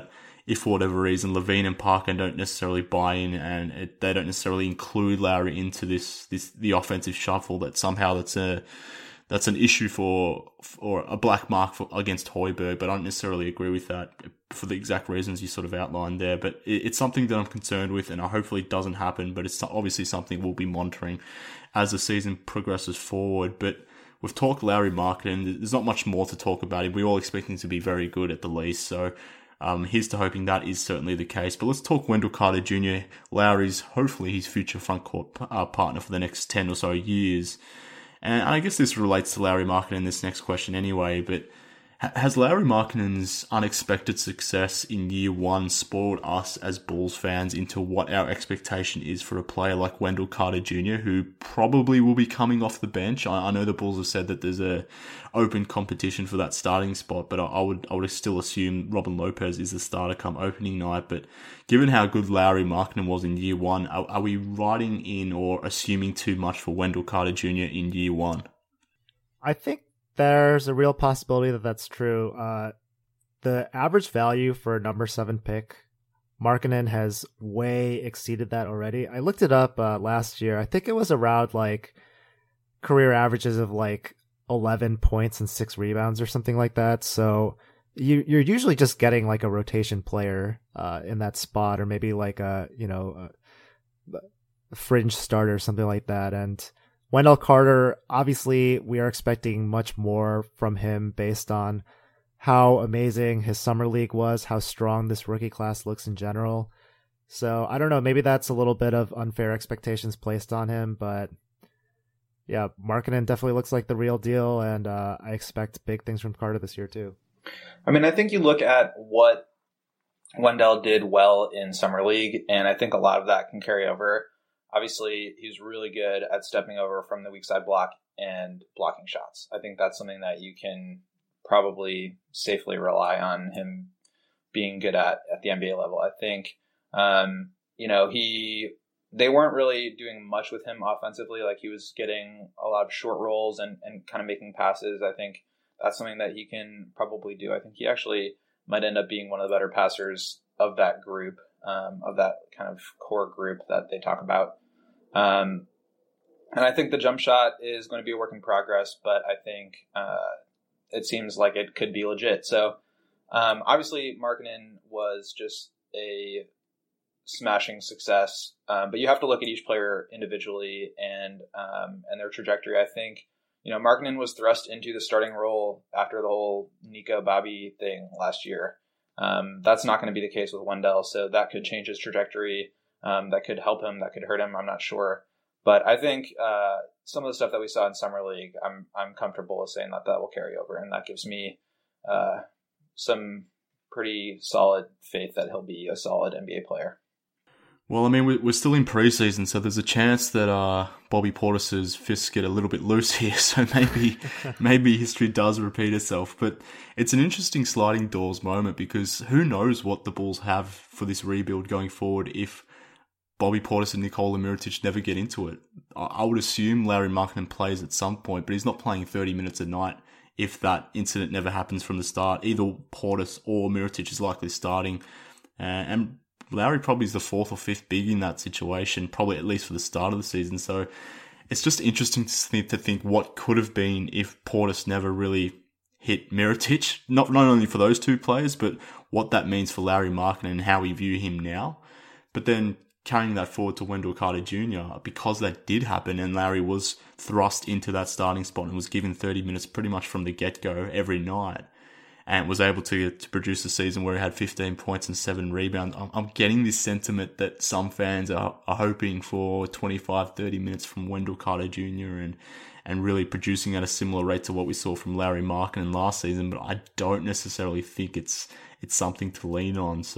if for whatever reason Levine and Parker don't necessarily buy in and they don't necessarily include Lowry into the offensive shuffle, that somehow that's an issue or a black mark against Højbjerg. But I don't necessarily agree with that for the exact reasons you sort of outlined there. But it's something that I'm concerned with, and hopefully it doesn't happen. But it's obviously something we'll be monitoring as the season progresses forward. But we've talked Lauri Markkanen. There's not much more to talk about him. We all expect him to be very good at the least. So here's to hoping that is certainly the case. But let's talk Wendell Carter Jr., Lowry's, hopefully his future front court partner for the next 10 or so years. And I guess this relates to Lauri Markkanen in this next question anyway, but has Lauri Markkanen's unexpected success in year one spoiled us as Bulls fans into what our expectation is for a player like Wendell Carter Jr., who probably will be coming off the bench? I know the Bulls have said that there's a open competition for that starting spot, but I would still assume Robin Lopez is the starter come opening night. But given how good Lauri Markkanen was in year one, are we writing in or assuming too much for Wendell Carter Jr. in year one? I think there's a real possibility that that's true. The average value for a number 7 pick, Markkanen has way exceeded that already. I looked it up last year. I think it was around like career averages of like 11 points and 6 rebounds or something like that. So you're usually just getting like a rotation player in that spot, or maybe like a fringe starter or something like that. And Wendell Carter, obviously, we are expecting much more from him based on how amazing his summer league was, how strong this rookie class looks in general. So I don't know, maybe that's a little bit of unfair expectations placed on him, but yeah, Markkanen definitely looks like the real deal, and I expect big things from Carter this year too. I mean, I think you look at what Wendell did well in summer league, and I think a lot of that can carry over. Obviously, he's really good at stepping over from the weak side block and blocking shots. I think that's something that you can probably safely rely on him being good at the NBA level. I think, they weren't really doing much with him offensively. Like, he was getting a lot of short rolls and kind of making passes. I think that's something that he can probably do. I think he actually might end up being one of the better passers of that group, of that kind of core group that they talk about. And I think the jump shot is going to be a work in progress, but I think it seems like it could be legit. So obviously Markkanen was just a smashing success, but you have to look at each player individually and their trajectory. I think, Markkanen was thrust into the starting role after the whole Nico Bobby thing last year. That's not going to be the case with Wendell, so that could change his trajectory. That could help him, that could hurt him, I'm not sure. But I think some of the stuff that we saw in Summer League, I'm comfortable with saying that will carry over, and that gives me some pretty solid faith that he'll be a solid NBA player. Well, I mean, we're still in preseason, so there's a chance that Bobby Portis's fists get a little bit loose here, so maybe history does repeat itself. But it's an interesting sliding doors moment, because who knows what the Bulls have for this rebuild going forward if Bobby Portis and Nikola Mirotic never get into it. I would assume Lauri Markkanen plays at some point, but he's not playing 30 minutes a night if that incident never happens from the start. Either Portis or Mirotic is likely starting, and Lauri probably is the 4th or 5th big in that situation, probably at least for the start of the season. So it's just interesting to think what could have been if Portis never really hit Mirotic, not only for those two players, but what that means for Lauri Markkanen and how we view him now. But then carrying that forward to Wendell Carter Jr., because that did happen and Lauri was thrust into that starting spot and was given 30 minutes pretty much from the get-go every night, and was able to produce a season where he had 15 points and 7 rebounds. I'm getting this sentiment that some fans are hoping for 25, 30 minutes from Wendell Carter Jr. and really producing at a similar rate to what we saw from Lauri Markkanen last season, but I don't necessarily think it's something to lean on. So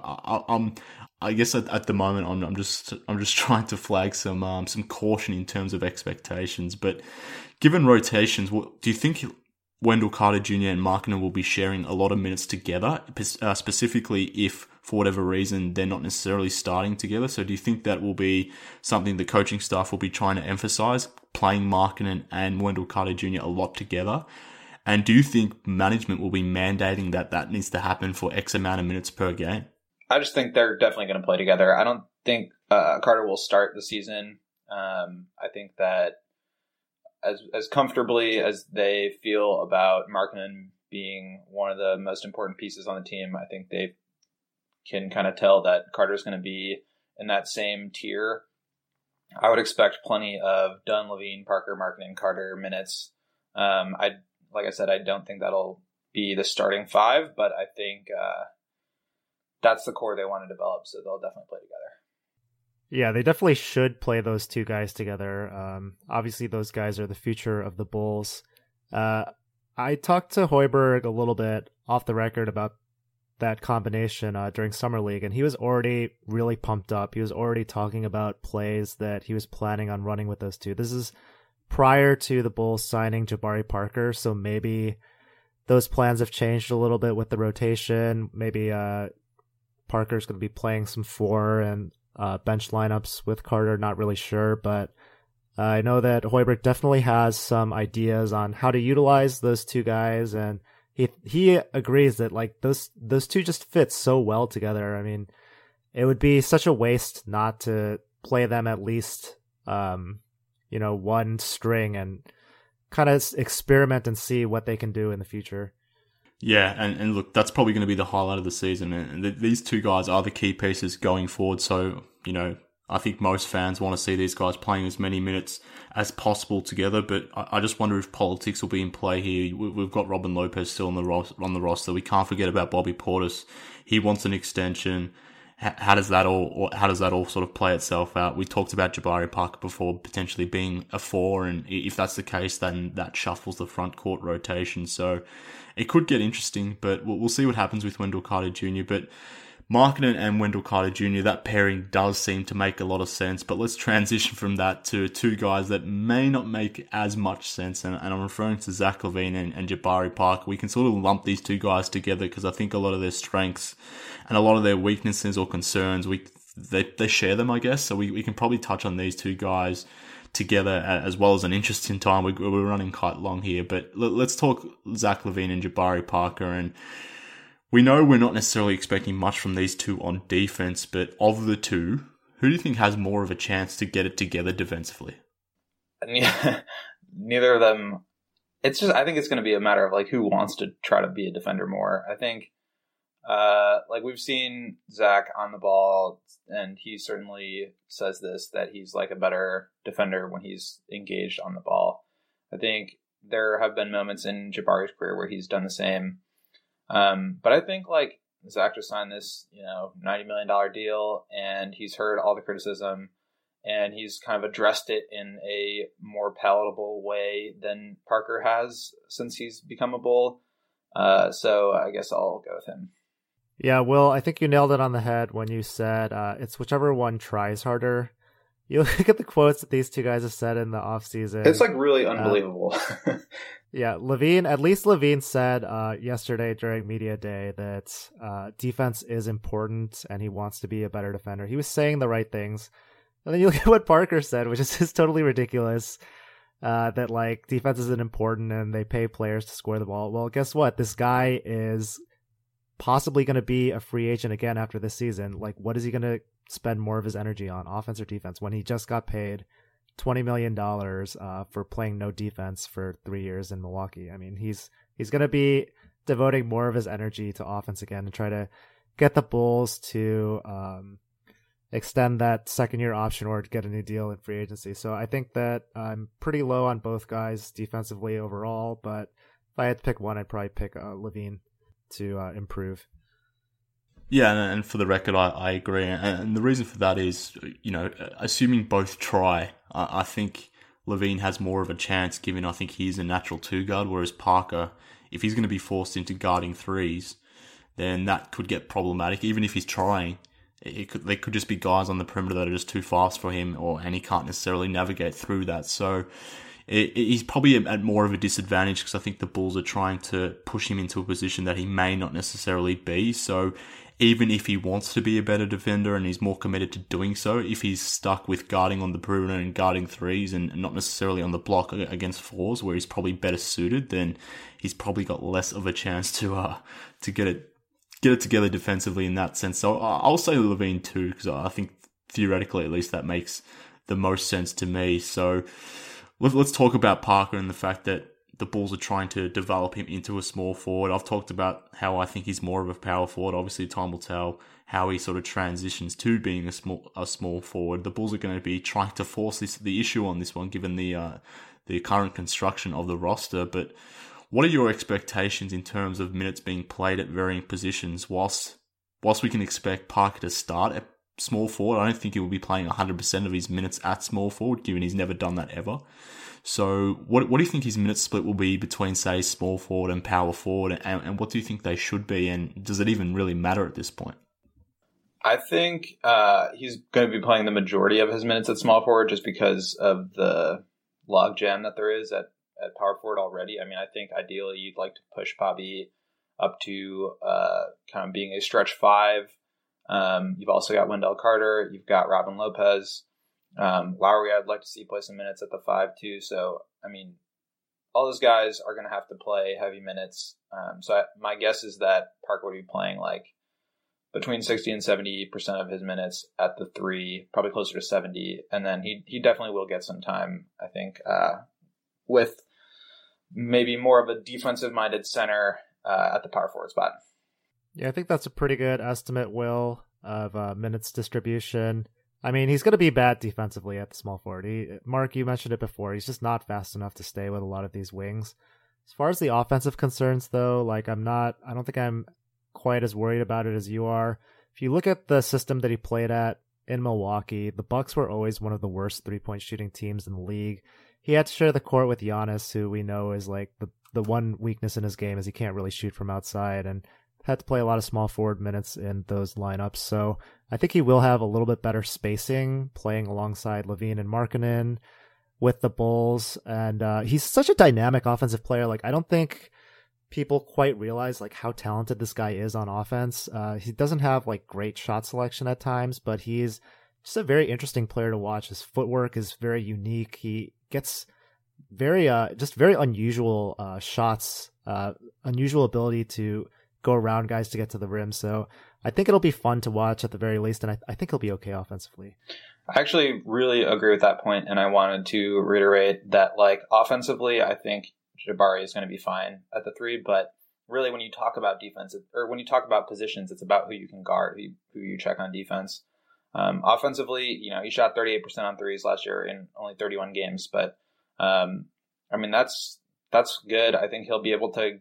I guess at the moment I'm just trying to flag some caution in terms of expectations. But given rotations, do you think Wendell Carter Jr. and Markkanen will be sharing a lot of minutes together, specifically if, for whatever reason, they're not necessarily starting together? So do you think that will be something the coaching staff will be trying to emphasize, playing Markkanen and Wendell Carter Jr. a lot together? And do you think management will be mandating that needs to happen for X amount of minutes per game? I just think they're definitely going to play together. I don't think Carter will start the season. I think that as comfortably as they feel about Markkanen being one of the most important pieces on the team, I think they can kind of tell that Carter's going to be in that same tier. I would expect plenty of Dunn, Levine, Parker, Markkanen, Carter minutes. Like I said, I don't think that'll be the starting five, but I think that's the core they want to develop, so they'll definitely play together. Yeah, they definitely should play those two guys together. Obviously, those guys are the future of the Bulls. I talked to Hoiberg a little bit off the record about that combination during Summer League, and he was already really pumped up. He was already talking about plays that he was planning on running with those two. This is prior to the Bulls signing Jabari Parker, so maybe those plans have changed a little bit with the rotation. Maybe Parker's going to be playing some 4 and bench lineups with Carter, not really sure, but I know that Hoiberg definitely has some ideas on how to utilize those two guys, and he agrees that like those two just fit so well together. I mean, it would be such a waste not to play them at least one string and kind of experiment and see what they can do in the future. Yeah, and look, that's probably going to be the highlight of the season. And these two guys are the key pieces going forward. So, I think most fans want to see these guys playing as many minutes as possible together. But I just wonder if politics will be in play here. We've got Robin Lopez still on the roster. We can't forget about Bobby Portis. He wants an extension. How does that all sort of play itself out? We talked about Jabari Parker before potentially being a 4, and if that's the case, then that shuffles the front court rotation. So it could get interesting, but we'll see what happens with Wendell Carter Jr. But Markkanen and Wendell Carter Jr., that pairing does seem to make a lot of sense. But let's transition from that to two guys that may not make as much sense. And I'm referring to Zach LaVine and Jabari Parker. We can sort of lump these two guys together because I think a lot of their strengths and a lot of their weaknesses or concerns, they share them, I guess. So we can probably touch on these two guys together as well as an interesting time. We're running quite long here. But let's talk Zach LaVine and Jabari Parker. And we know we're not necessarily expecting much from these two on defense, but of the two, who do you think has more of a chance to get it together defensively? Neither of them. I think it's going to be a matter of like who wants to try to be a defender more. I think, we've seen Zach on the ball, and he certainly says this, that he's like a better defender when he's engaged on the ball. I think there have been moments in Jabari's career where he's done the same. But I think like Zach just signed this, $90 million deal, and he's heard all the criticism, and he's kind of addressed it in a more palatable way than Parker has since he's become a Bull. So I guess I'll go with him. Yeah, Will, I think you nailed it on the head when you said it's whichever one tries harder. You look at the quotes that these two guys have said in the offseason. It's like really unbelievable. Yeah, at least Levine said yesterday during Media Day that defense is important and he wants to be a better defender. He was saying the right things. And then you look at what Parker said, which is just totally ridiculous, that like defense isn't important and they pay players to score the ball. Well, guess what? This guy is possibly going to be a free agent again after this season. Like, what is he going to spend more of his energy on, offense or defense, when he just got paid $20 million for playing no defense for 3 years in Milwaukee? I mean, he's going to be devoting more of his energy to offense again and try to get the Bulls to extend that second-year option or to get a new deal in free agency. So I think that I'm pretty low on both guys defensively overall, but if I had to pick one, I'd probably pick Levine to improve. Yeah, and for the record, I agree. And the reason for that is, assuming both try, I think Levine has more of a chance, given I think he's a natural 2-guard, whereas Parker, if he's going to be forced into guarding threes, then that could get problematic. Even if he's trying, they could just be guys on the perimeter that are just too fast for him, and he can't necessarily navigate through that. So he's probably at more of a disadvantage because I think the Bulls are trying to push him into a position that he may not necessarily be. So even if he wants to be a better defender and he's more committed to doing so, if he's stuck with guarding on the perimeter and guarding threes and not necessarily on the block against 4s where he's probably better suited, then he's probably got less of a chance to get it get it together defensively in that sense. So I'll say Levine too, because I think theoretically at least that makes the most sense to me. So let's talk about Parker and the fact that the Bulls are trying to develop him into a small forward. I've talked about how I think he's more of a power forward. Obviously, time will tell how he sort of transitions to being a small forward. The Bulls are going to be trying to force the issue on this one, given the current construction of the roster. But what are your expectations in terms of minutes being played at varying positions? Whilst we can expect Parker to start at small forward, I don't think he will be playing 100% of his minutes at small forward, given he's never done that ever. So what do you think his minute split will be between, say, small forward and power forward, and what do you think they should be, and does it even really matter at this point? I think he's going to be playing the majority of his minutes at small forward just because of the logjam that there is at power forward already. I mean, I think ideally you'd like to push Bobby up to kind of being a stretch five. You've also got Wendell Carter. You've got Robin Lopez. Lowry, I'd like to see play some minutes at the 5 too. So, I mean, all those guys are going to have to play heavy minutes. My guess is that Parker would be playing like between 60 and 70% of his minutes at the 3, probably closer to 70. And then he definitely will get some time, I think, with maybe more of a defensive-minded center at the power forward spot. Yeah, I think that's a pretty good estimate, Will, of minutes distribution. I mean, he's going to be bad defensively at the small forward. Mark, you mentioned it before. He's just not fast enough to stay with a lot of these wings. As far as the offensive concerns, though, like I don't think I'm quite as worried about it as you are. If you look at the system that he played at in Milwaukee, the Bucks were always one of the worst three-point shooting teams in the league. He had to share the court with Giannis, who we know is like the one weakness in his game is he can't really shoot from outside, and had to play a lot of small forward minutes in those lineups. So I think he will have a little bit better spacing playing alongside Levine and Markkanen with the Bulls. And he's such a dynamic offensive player. Like, I don't think people quite realize like how talented this guy is on offense. He doesn't have like great shot selection at times, but he's just a very interesting player to watch. His footwork is very unique. He gets very unusual shots, unusual ability to go around guys to get to the rim. So I think it'll be fun to watch at the very least, and I think he'll be okay offensively. I actually really agree with that point, and I wanted to reiterate that, like, offensively, I think Jabari is going to be fine at the 3, but really when you talk about defense, or when you talk about positions, it's about who you can guard, who you check on defense. Offensively, he shot 38% on threes last year in only 31 games, but I mean, that's good. I think he'll be able to,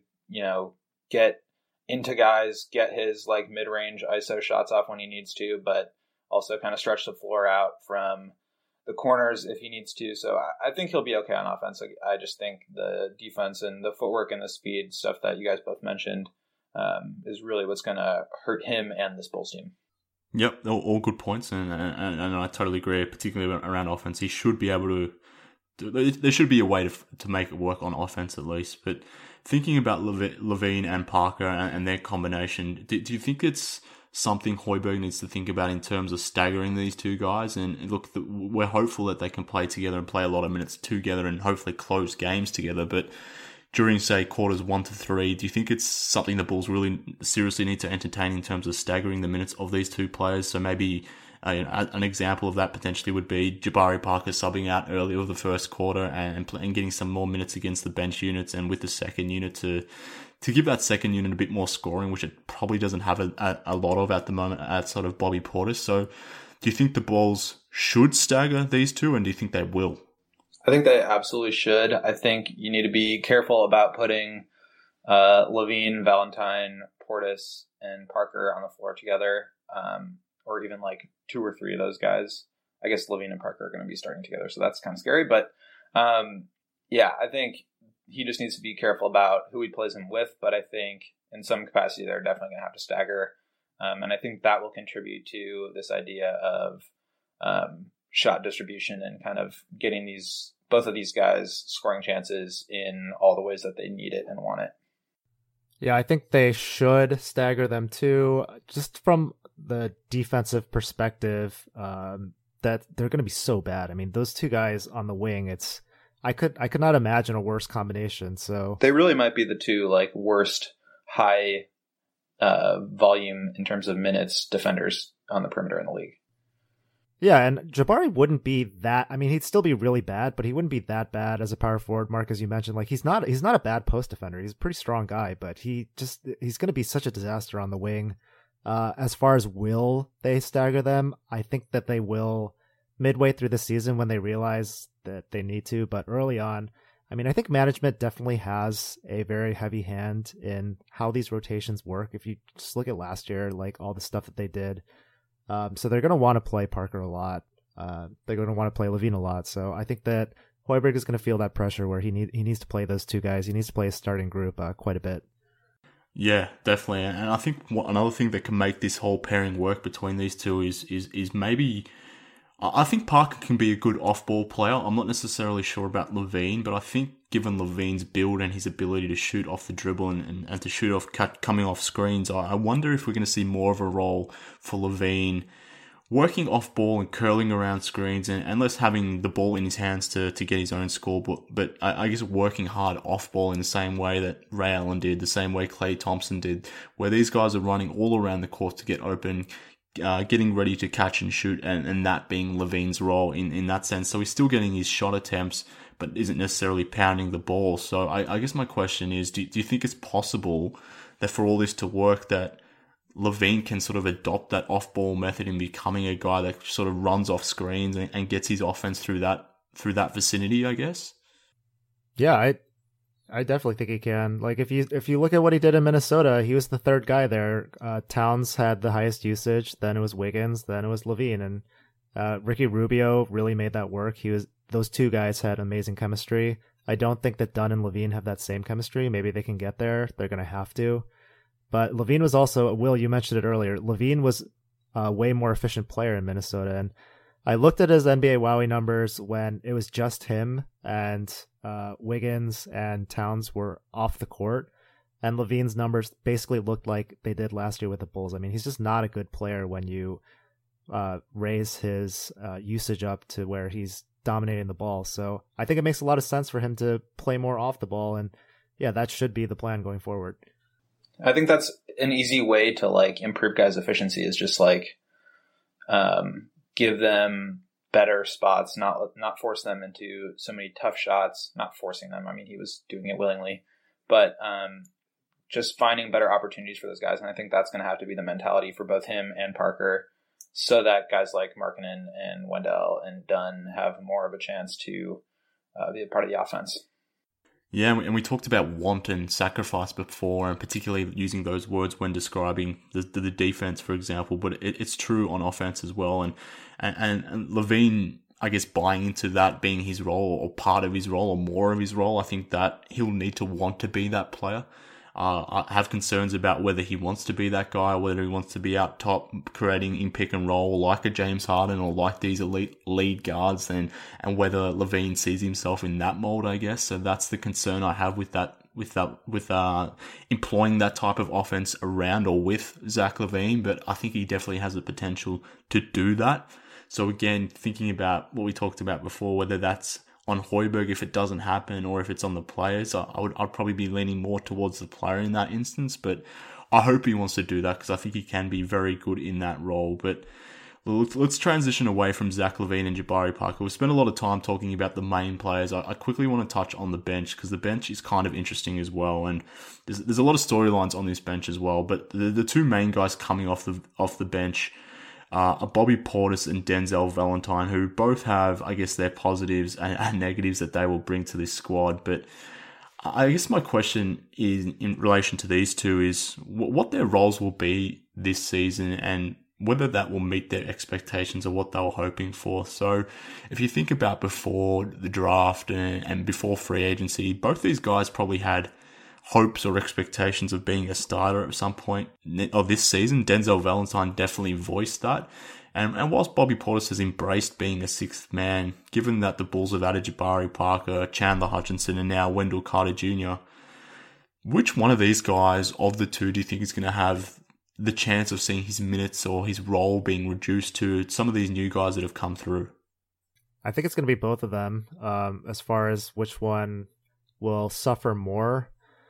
get into guys, get his like mid-range ISO shots off when he needs to, but also kind of stretch the floor out from the corners if he needs to. So I think he'll be okay on offense. I just think the defense and the footwork and the speed stuff that you guys both mentioned is really what's going to hurt him and this Bulls team. Yep, all good points, and I totally agree, particularly around offense. He should be able to. There should be a way to make it work on offense at least. But thinking about Levine and Parker and their combination, do you think it's something Hoiberg needs to think about in terms of staggering these two guys? And look, we're hopeful that they can play together and play a lot of minutes together and hopefully close games together. But during, say, quarters 1 to 3, do you think it's something the Bulls really seriously need to entertain in terms of staggering the minutes of these two players? So maybe an example of that potentially would be Jabari Parker subbing out early of the first quarter and getting some more minutes against the bench units, and with the second unit to give that second unit a bit more scoring, which it probably doesn't have a lot of at the moment outside of Bobby Portis. So do you think the Bulls should stagger these two, and do you think they will? I think they absolutely should. I think you need to be careful about putting Levine, Valentine, Portis, and Parker on the floor together, or even like 2 or 3 of those guys. I guess Levine and Parker are going to be starting together, so that's kind of scary. But I think he just needs to be careful about who he plays him with. But I think in some capacity they're definitely going to have to stagger, and I think that will contribute to this idea of shot distribution and kind of getting both of these guys scoring chances in all the ways that they need it and want it. Yeah, I think they should stagger them too, just from the defensive perspective, that they're going to be so bad. I mean, those two guys on the wing, I could not imagine a worse combination. So they really might be the two like worst high volume in terms of minutes defenders on the perimeter in the league. Yeah, and Jabari wouldn't be that. I mean, he'd still be really bad, but he wouldn't be that bad as a power forward. Mark, as you mentioned, like he's not a bad post defender. He's a pretty strong guy, but he's going to be such a disaster on the wing. As far as will they stagger them, I think that they will midway through the season when they realize that they need to. But early on, I mean, I think management definitely has a very heavy hand in how these rotations work. If you just look at last year, like all the stuff that they did. So they're going to want to play Parker a lot. They're going to want to play LaVine a lot. So I think that Hoiberg is going to feel that pressure where he needs to play those two guys. He needs to play a starting group quite a bit. Yeah, definitely. And I think another thing that can make this whole pairing work between these two is maybe... I think Parker can be a good off-ball player. I'm not necessarily sure about LaVine, but I think given LaVine's build and his ability to shoot off the dribble and to shoot off coming off screens, I wonder if we're going to see more of a role for LaVine working off-ball and curling around screens and less having the ball in his hands to get his own score, but I guess working hard off-ball in the same way that Ray Allen did, the same way Klay Thompson did, where these guys are running all around the court to get open, getting ready to catch and shoot, and that being LaVine's role in that sense. So he's still getting his shot attempts, but isn't necessarily pounding the ball. So I guess my question is, do you think it's possible that for all this to work, that LaVine can sort of adopt that off-ball method in becoming a guy that sort of runs off screens and gets his offense through that vicinity, I guess? Yeah, I definitely think he can. Like if you look at what he did in Minnesota, he was the third guy there. Towns had the highest usage, then it was Wiggins, then it was LaVine, and Ricky Rubio really made that work. Those two guys had amazing chemistry. I don't think that Dunn and LaVine have that same chemistry. Maybe they can get there. They're going to have to. But LaVine was also, Will, you mentioned it earlier, LaVine was a way more efficient player in Minnesota. And I looked at his NBA WOWY numbers when it was just him and Wiggins and Towns were off the court. And LaVine's numbers basically looked like they did last year with the Bulls. I mean, he's just not a good player when you raise his usage up to where he's dominating the ball. So I think it makes a lot of sense for him to play more off the ball. And yeah, that should be the plan going forward. I think that's an easy way to like improve guys' efficiency is just like give them better spots, not force them into so many tough shots, not forcing them. I mean, he was doing it willingly, but just finding better opportunities for those guys. And I think that's going to have to be the mentality for both him and Parker so that guys like Markkanen and Wendell and Dunn have more of a chance to be a part of the offense. Yeah, and we talked about want and sacrifice before, and particularly using those words when describing the defense, for example. But it's true on offense as well. And LaVine, I guess, buying into that being his role or part of his role or more of his role, I think that he'll need to want to be that player. I have concerns about whether he wants to be that guy or whether he wants to be out top creating in pick and roll like a James Harden or like these elite lead guards and whether LaVine sees himself in that mold, I guess. So that's the concern I have with employing that type of offense around or with Zach LaVine, but I think he definitely has the potential to do that. So again, thinking about what we talked about before, whether that's on Hoiberg if it doesn't happen or if it's on the players, I'd probably be leaning more towards the player in that instance, but I hope he wants to do that because I think he can be very good in that role. But let's transition away from Zach LaVine and Jabari Parker. We've spent a lot of time talking about the main players. I quickly want to touch on the bench because the bench is kind of interesting as well, and there's a lot of storylines on this bench as well, but the two main guys coming off the bench are Bobby Portis and Denzel Valentine, who both have, I guess, their positives and negatives that they will bring to this squad. But I guess my question is in relation to these two is what their roles will be this season and whether that will meet their expectations of what they were hoping for. So if you think about before the draft and before free agency, both these guys probably had hopes or expectations of being a starter at some point of this season. Denzel Valentine definitely voiced that. And whilst Bobby Portis has embraced being a sixth man, given that the Bulls have added Jabari Parker, Chandler Hutchinson, and now Wendell Carter Jr., which one of these guys of the two do you think is going to have the chance of seeing his minutes or his role being reduced to some of these new guys that have come through? I think it's going to be both of them as far as which one will suffer more.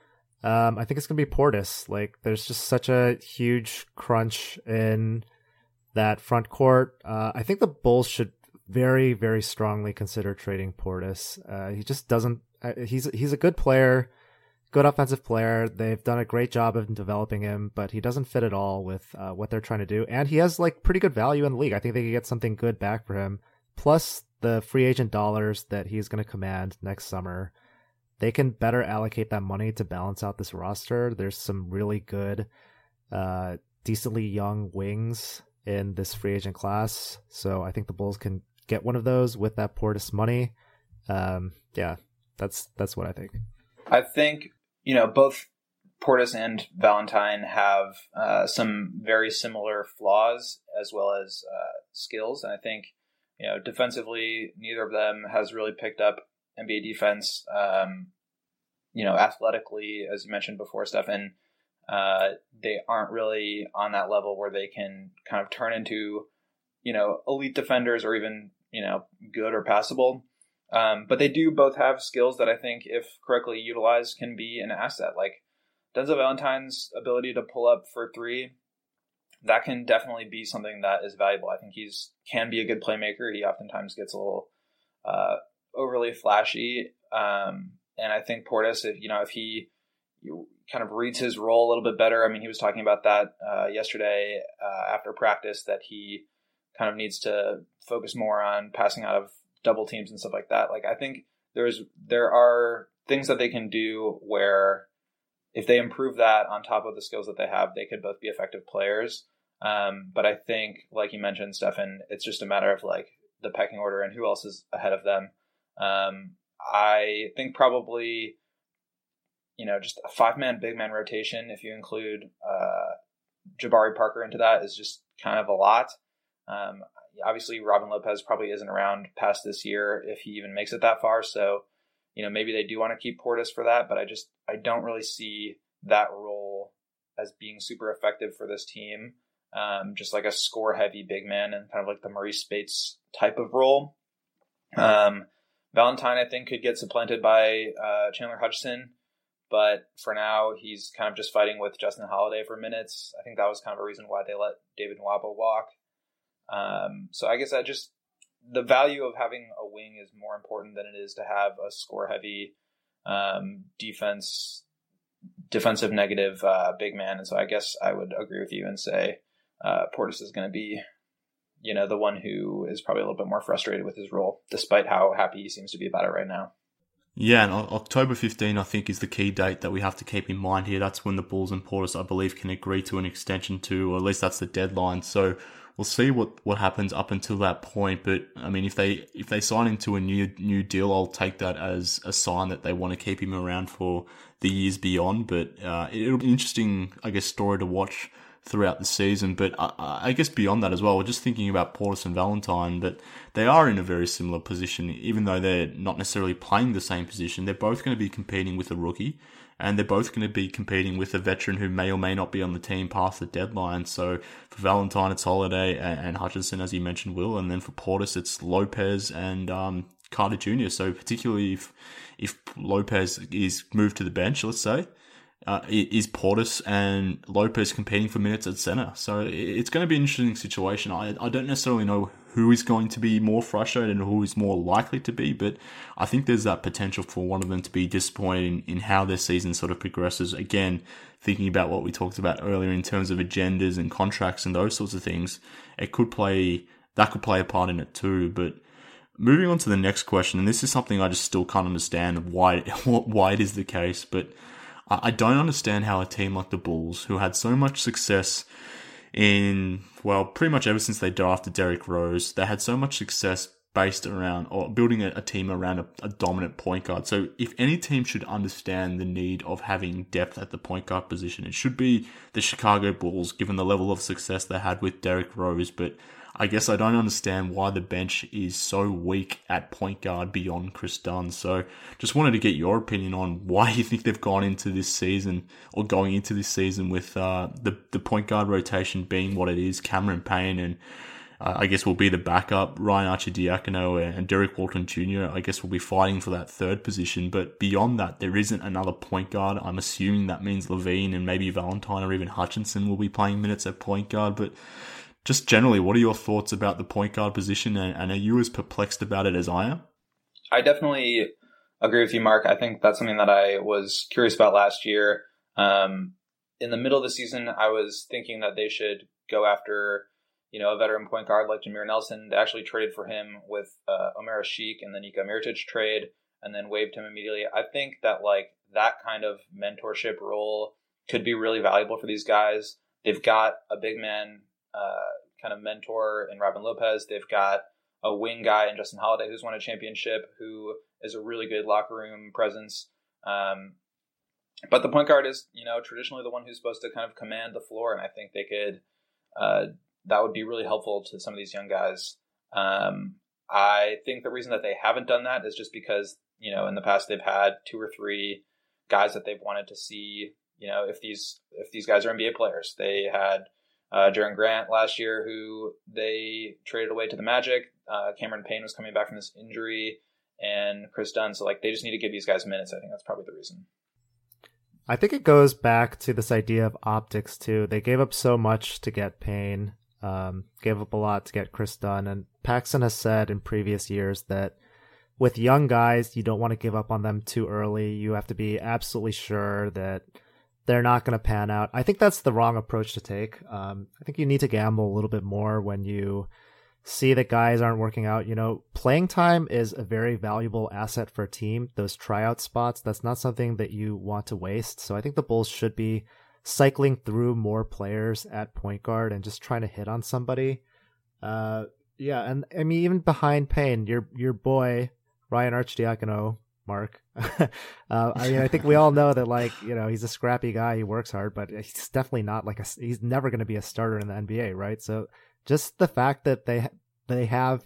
I think it's going to be Portis. Like, there's just such a huge crunch in that front court. I think the Bulls should very, very strongly consider trading Portis. He just doesn't. He's a good player, good offensive player. They've done a great job of developing him, but he doesn't fit at all with what they're trying to do. And he has like pretty good value in the league. I think they could get something good back for him. Plus the free agent dollars that he's going to command next summer. They can better allocate that money to balance out this roster. There's some really good, decently young wings in this free agent class. So I think the Bulls can get one of those with that Portis money. Yeah, that's what I think. I think, both Portis and Valentine have some very similar flaws as well as skills. And I think, defensively, neither of them has really picked up NBA defense. Athletically, as you mentioned before, Stefan, they aren't really on that level where they can kind of turn into, elite defenders or even, good or passable. But they do both have skills that I think, if correctly utilized, can be an asset. Like Denzel Valentine's ability to pull up for three, that can definitely be something that is valuable. I think can be a good playmaker. He oftentimes gets a little overly flashy. And I think Portis, if he kind of reads his role a little bit better. I mean, he was talking about that yesterday after practice, that he kind of needs to focus more on passing out of double teams and stuff like that. Like, I think there are things that they can do where if they improve that on top of the skills that they have, they could both be effective players. But I think, like you mentioned, Stefan, it's just a matter of like the pecking order and who else is ahead of them. I think probably, just a 5-man, big man rotation, if you include Jabari Parker into that, is just kind of a lot. Obviously, Robin Lopez probably isn't around past this year if he even makes it that far. So, maybe they do want to keep Portis for that, but I don't really see that role as being super effective for this team. Just like a score-heavy big man and kind of like the Maurice Spates type of role. Valentine, I think, could get supplanted by Chandler Hutchison, but for now, he's kind of just fighting with Justin Holiday for minutes. I think that was kind of a reason why they let David Nwaba walk. So I guess the value of having a wing is more important than it is to have a score-heavy defensive negative big man. And so I guess I would agree with you and say Portis is going to be the one who is probably a little bit more frustrated with his role, despite how happy he seems to be about it right now. Yeah, and October 15, I think, is the key date that we have to keep in mind here. That's when the Bulls and Portis, I believe, can agree to an extension to, or at least that's the deadline. So we'll see what happens up until that point. But I mean, if they sign into a new deal, I'll take that as a sign that they want to keep him around for the years beyond. But it'll be an interesting, I guess, story to watch throughout the season. But I guess beyond that as well, we're just thinking about Portis and Valentine, that they are in a very similar position, even though they're not necessarily playing the same position. They're both going to be competing with a rookie, and they're both going to be competing with a veteran who may or may not be on the team past the deadline. So for Valentine, it's Holiday and Hutchison, as you mentioned, Will, and then for Portis, it's Lopez and Carter Jr. So particularly if Lopez is moved to the bench, let's say, is Portis and Lopez competing for minutes at center. So it's going to be an interesting situation. I don't necessarily know who is going to be more frustrated and who is more likely to be, but I think there's that potential for one of them to be disappointed in how their season sort of progresses. Again, thinking about what we talked about earlier in terms of agendas and contracts and those sorts of things, that could play a part in it too. But moving on to the next question, and this is something I just still can't understand why it is the case, but I don't understand how a team like the Bulls, who had so much success pretty much ever since they drafted Derrick Rose, they had so much success based around, or building a team around a dominant point guard. So if any team should understand the need of having depth at the point guard position, it should be the Chicago Bulls, given the level of success they had with Derrick Rose. But I guess I don't understand why the bench is so weak at point guard beyond Chris Dunn. So just wanted to get your opinion on why you think they've gone into this season, or going into this season, with the point guard rotation being what it is. Cameron Payne and I guess will be the backup. Ryan Arcidiacono and Derek Walton Jr. I guess will be fighting for that third position. But beyond that, there isn't another point guard. I'm assuming that means Levine and maybe Valentine or even Hutchinson will be playing minutes at point guard. But just generally, what are your thoughts about the point guard position? And are you as perplexed about it as I am? I definitely agree with you, Mark. I think that's something that I was curious about last year. In the middle of the season, I was thinking that they should go after, a veteran point guard like Jameer Nelson. They actually traded for him with Omer Asik and the Nika Mirotic trade, and then waived him immediately. I think that that kind of mentorship role could be really valuable for these guys. They've got a big man kind of mentor in Robin Lopez. They've got a wing guy in Justin Holiday who's won a championship, who is a really good locker room presence. But the point guard is, traditionally the one who's supposed to kind of command the floor, and I think they could. That would be really helpful to some of these young guys. I think the reason that they haven't done that is just because, in the past they've had 2 or 3 guys that they've wanted to see, if these guys are NBA players. They had Jaren Grant last year, who they traded away to the Magic. Cameron Payne was coming back from this injury, and Chris Dunn. So they just need to give these guys minutes. I think that's probably the reason. I think it goes back to this idea of optics too. They gave up so much to get Payne, gave up a lot to get Chris Dunn, and Paxson has said in previous years that with young guys, you don't want to give up on them too early. You have to be absolutely sure that they're not going to pan out. I think that's the wrong approach to take. I think you need to gamble a little bit more when you see that guys aren't working out. Playing time is a very valuable asset for a team. Those tryout spots, that's not something that you want to waste. So I think the Bulls should be cycling through more players at point guard and just trying to hit on somebody. And I mean, even behind Payne, your boy, Ryan Arcidiacono, Mark. I think we all know that he's a scrappy guy. He works hard, but he's definitely not he's never going to be a starter in the NBA, right? So just the fact that they have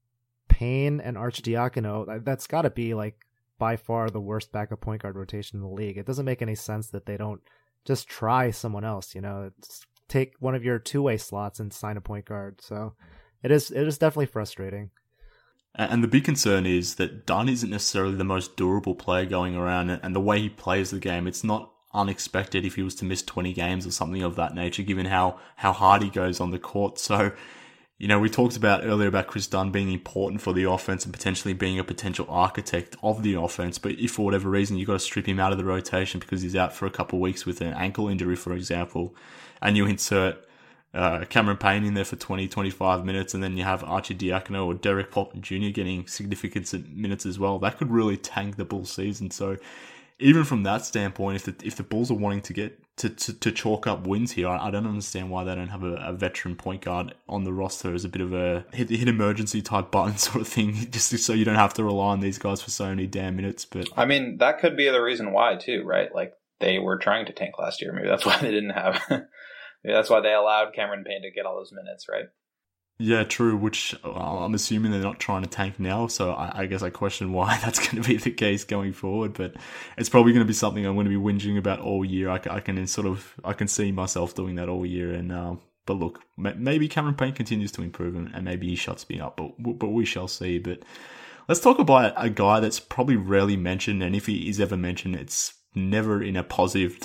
Payne and Arcidiacono, that's got to be by far the worst backup point guard rotation in the league. It doesn't make any sense that they don't just try someone else. Take one of your two-way slots and sign a point guard. So it is definitely frustrating. And the big concern is that Dunn isn't necessarily the most durable player going around, and the way he plays the game, it's not unexpected if he was to miss 20 games or something of that nature, given how hard he goes on the court. So, we talked earlier about Chris Dunn being important for the offense and potentially being a potential architect of the offense. But if for whatever reason you've got to strip him out of the rotation because he's out for a couple of weeks with an ankle injury, for example, and you insert Cameron Payne in there for 20, 25 minutes, and then you have Arcidiacono or Derek Walton Jr. getting significant minutes as well, that could really tank the Bulls season. So even from that standpoint, if the Bulls are wanting to get to chalk up wins here, I don't understand why they don't have a veteran point guard on the roster as a bit of a hit emergency type button sort of thing, just so you don't have to rely on these guys for so many damn minutes. But I mean, that could be the reason why too, right? They were trying to tank last year. Maybe that's why they didn't have. Maybe that's why they allowed Cameron Payne to get all those minutes, right? Yeah, true, which I'm assuming they're not trying to tank now, so I guess I question why that's going to be the case going forward, but it's probably going to be something I'm going to be whinging about all year. I can see myself doing that all year, and but look, maybe Cameron Payne continues to improve, and maybe he shuts me up, but we shall see. But let's talk about a guy that's probably rarely mentioned, and if he is ever mentioned, it's never in a positive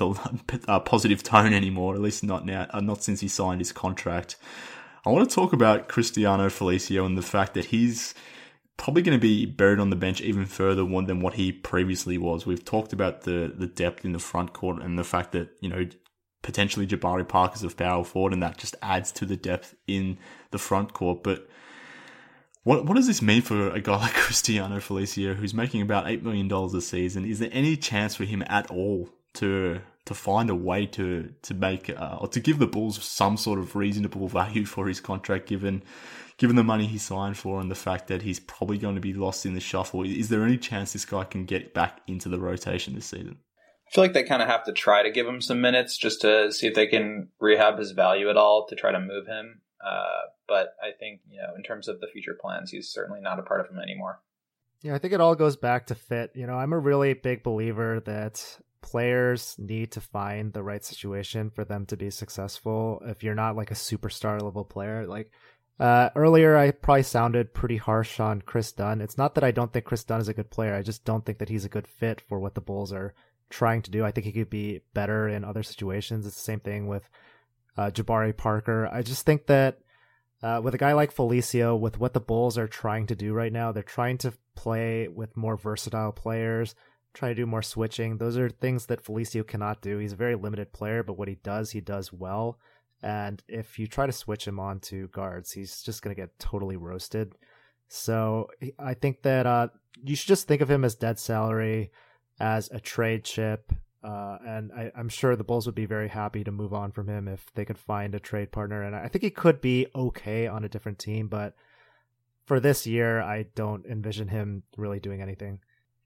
tone anymore, at least not now, not since he signed his contract. I want to talk about Cristiano Felicio and the fact that he's probably going to be buried on the bench even further than what he previously was. We've talked about the depth in the front court and the fact that, potentially Jabari Parker's a power forward, and that just adds to the depth in the front court. But what does this mean for a guy like Cristiano Felicio, who's making about $8 million a season? Is there any chance for him at all to find a way to make or to give the Bulls some sort of reasonable value for his contract, given the money he signed for and the fact that he's probably going to be lost in the shuffle? Is there any chance this guy can get back into the rotation this season? I feel like they kind of have to try to give him some minutes just to see if they can rehab his value at all to try to move him. But I think, in terms of the future plans, he's certainly not a part of them anymore. Yeah, I think it all goes back to fit. I'm a really big believer that players need to find the right situation for them to be successful. If you're not a superstar level player, Earlier, I probably sounded pretty harsh on Chris Dunn. It's not that I don't think Chris Dunn is a good player. I just don't think that he's a good fit for what the Bulls are trying to do. I think he could be better in other situations. It's the same thing with Jabari Parker. I just think that with a guy like Felicio, with what the Bulls are trying to do right now, they're trying to play with more versatile players, try to do more switching. Those are things that Felicio cannot do. He's a very limited player, but what he does well. And if you try to switch him on to guards, he's just going to get totally roasted. So I think that you should just think of him as dead salary, as a trade chip. And I'm sure the Bulls would be very happy to move on from him if they could find a trade partner. And I think he could be okay on a different team, but for this year, I don't envision him really doing anything.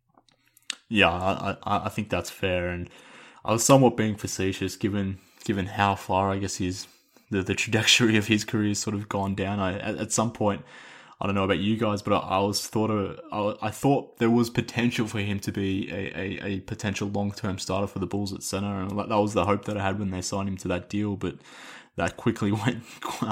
Yeah, I think that's fair. And I was somewhat being facetious given how far, I guess, the trajectory of his career has sort of gone down. At some point, I don't know about you guys, but I thought there was potential for him to be a potential long-term starter for the Bulls at center, and that was the hope that I had when they signed him to that deal. But that quickly went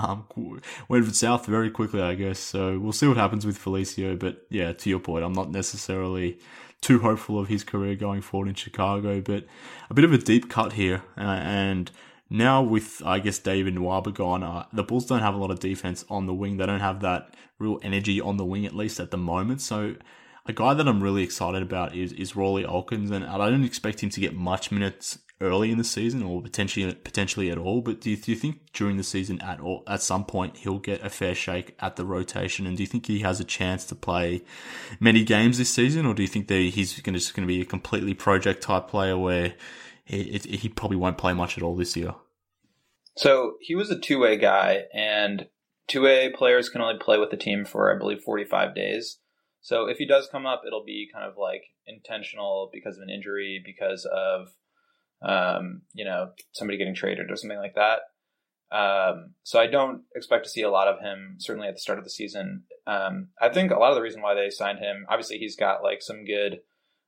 south very quickly, I guess. So we'll see what happens with Felicio. But yeah, to your point, I'm not necessarily too hopeful of his career going forward in Chicago. But a bit of a deep cut here, and now with, I guess, David Nwaba gone, the Bulls don't have a lot of defense on the wing. They don't have that real energy on the wing, at least at the moment. So a guy that I'm really excited about is Rawle Alkins, and I don't expect him to get much minutes early in the season or potentially at all. But do you think during the season at some point he'll get a fair shake at the rotation? And do you think he has a chance to play many games this season, or do you think that he's just going to be a completely project type player where he probably won't play much at all this year? So he was a two-way guy, and two-way players can only play with the team for, I believe, 45 days. So if he does come up, it'll be kind of like intentional because of an injury, because of somebody getting traded or something like that. So I don't expect to see a lot of him, certainly at the start of the season. I think a lot of the reason why they signed him, obviously he's got like some good,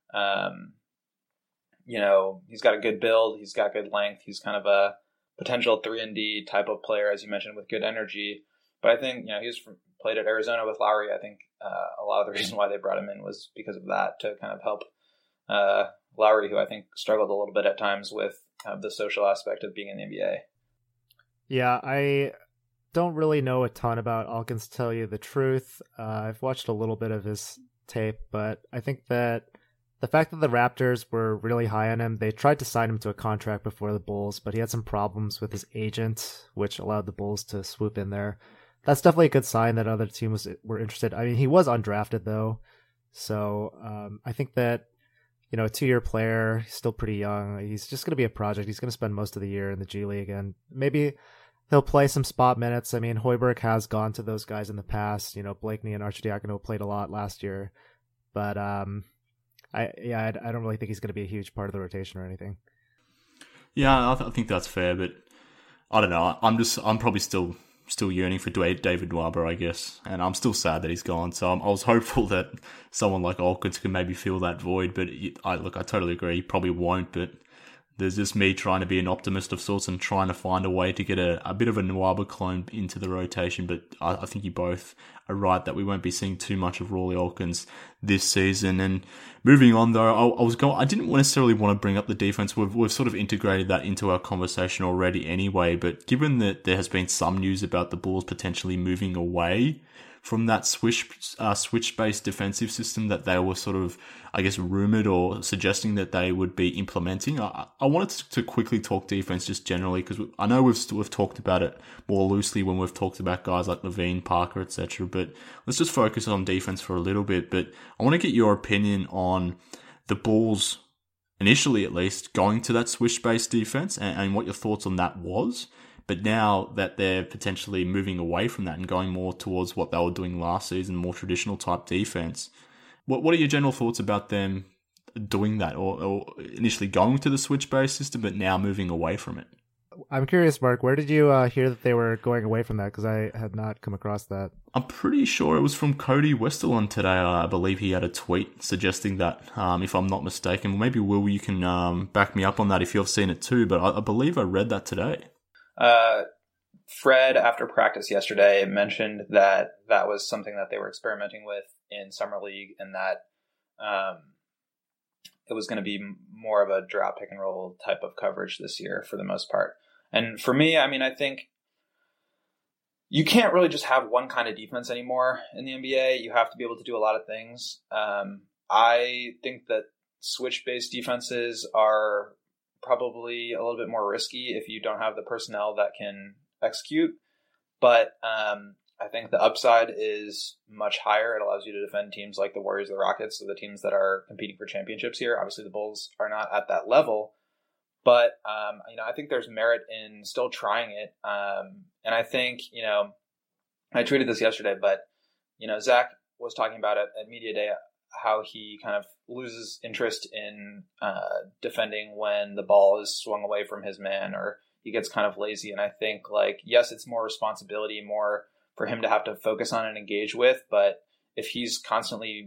he's got a good build, he's got good length, he's kind of a potential 3-and-D type of player, as you mentioned, with good energy. But I think, he's played at Arizona with Lowry. I think a lot of the reason why they brought him in was because of that, to kind of help Lowry, who I think struggled a little bit at times with the social aspect of being in the NBA. Yeah, I don't really know a ton about Alkins, to tell you the truth. I've watched a little bit of his tape, but I think that the fact that the Raptors were really high on him, they tried to sign him to a contract before the Bulls, but he had some problems with his agent, which allowed the Bulls to swoop in there. That's definitely a good sign that other teams were interested. I mean, he was undrafted, though, so I think that, a 2-year player, he's still pretty young. He's just going to be a project. He's going to spend most of the year in the G League, and maybe he'll play some spot minutes. I mean, Hoiberg has gone to those guys in the past. Blakeney and Arcidiacono played a lot last year, but I don't really think he's going to be a huge part of the rotation or anything. Yeah, I think that's fair, but I don't know. I'm probably still yearning for David Nwaba, I guess, and I'm still sad that he's gone. So I was hopeful that someone like Alkins could maybe fill that void, but I totally agree. He probably won't, but there's just me trying to be an optimist of sorts and trying to find a way to get a bit of a Nwaba clone into the rotation. But I think you both are right that we won't be seeing too much of Rawle Alkins this season. And moving on, though, I didn't necessarily want to bring up the defense. We've sort of integrated that into our conversation already anyway. But given that there has been some news about the Bulls potentially moving away from that switch-based defensive system that they were sort of, I guess, rumored or suggesting that they would be implementing. I wanted to quickly talk defense just generally, because I know we've talked about it more loosely when we've talked about guys like Levine, Parker, etc. But let's just focus on defense for a little bit. But I want to get your opinion on the Bulls, initially at least, going to that switch-based defense and what your thoughts on that was. But now that they're potentially moving away from that and going more towards what they were doing last season, more traditional type defense, what are your general thoughts about them doing that, or initially going to the switch-based system but now moving away from it? I'm curious, Mark, where did you hear that they were going away from that? Because I had not come across that. I'm pretty sure it was from Cody Westerlund today. I believe he had a tweet suggesting that, if I'm not mistaken. Maybe, Will, you can back me up on that if you've seen it too, but I believe I read that today. Fred, after practice yesterday, mentioned that that was something that they were experimenting with in Summer League, and that it was going to be more of a drop pick and roll type of coverage this year for the most part. And for me, I mean, I think you can't really just have one kind of defense anymore in the NBA. You have to be able to do a lot of things. I think that switch-based defenses are probably a little bit more risky if you don't have the personnel that can execute. But I think the upside is much higher. It allows you to defend teams like the Warriors, the Rockets, so the teams that are competing for championships here. Obviously, the Bulls are not at that level. But, I think there's merit in still trying it. And I think, I tweeted this yesterday, but, Zach was talking about it at Media Day, how he kind of loses interest in defending when the ball is swung away from his man, or he gets kind of lazy. And I think, yes, it's more responsibility, more for him to have to focus on and engage with. But if he's constantly,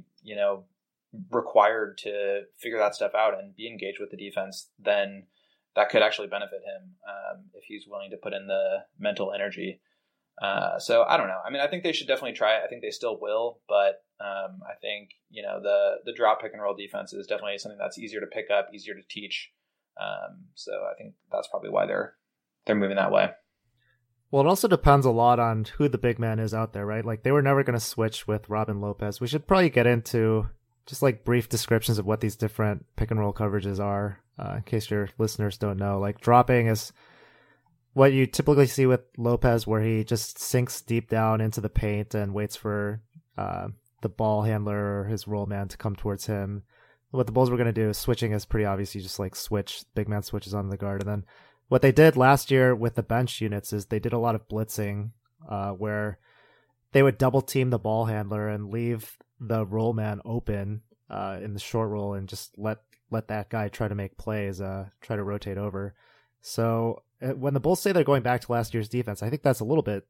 required to figure that stuff out and be engaged with the defense, then that could actually benefit him if he's willing to put in the mental energy. So I don't know. I mean, I think they should definitely try it. I think they still will, but I think, the drop pick and roll defense is definitely something that's easier to pick up, easier to teach. So I think that's probably why they're moving that way. Well, it also depends a lot on who the big man is out there, right? Like, they were never going to switch with Robin Lopez. We should probably get into just brief descriptions of what these different pick and roll coverages are, in case your listeners don't know. Like, dropping is what you typically see with Lopez, where he just sinks deep down into the paint and waits for the ball handler or his roll man to come towards him. What the Bulls were going to do, switching is pretty obvious. You just switch, big man switches on the guard. And then what they did last year with the bench units is they did a lot of blitzing, where they would double team the ball handler and leave the roll man open in the short roll and just let that guy try to make plays, try to rotate over. So when the Bulls say they're going back to last year's defense, I think that's a little bit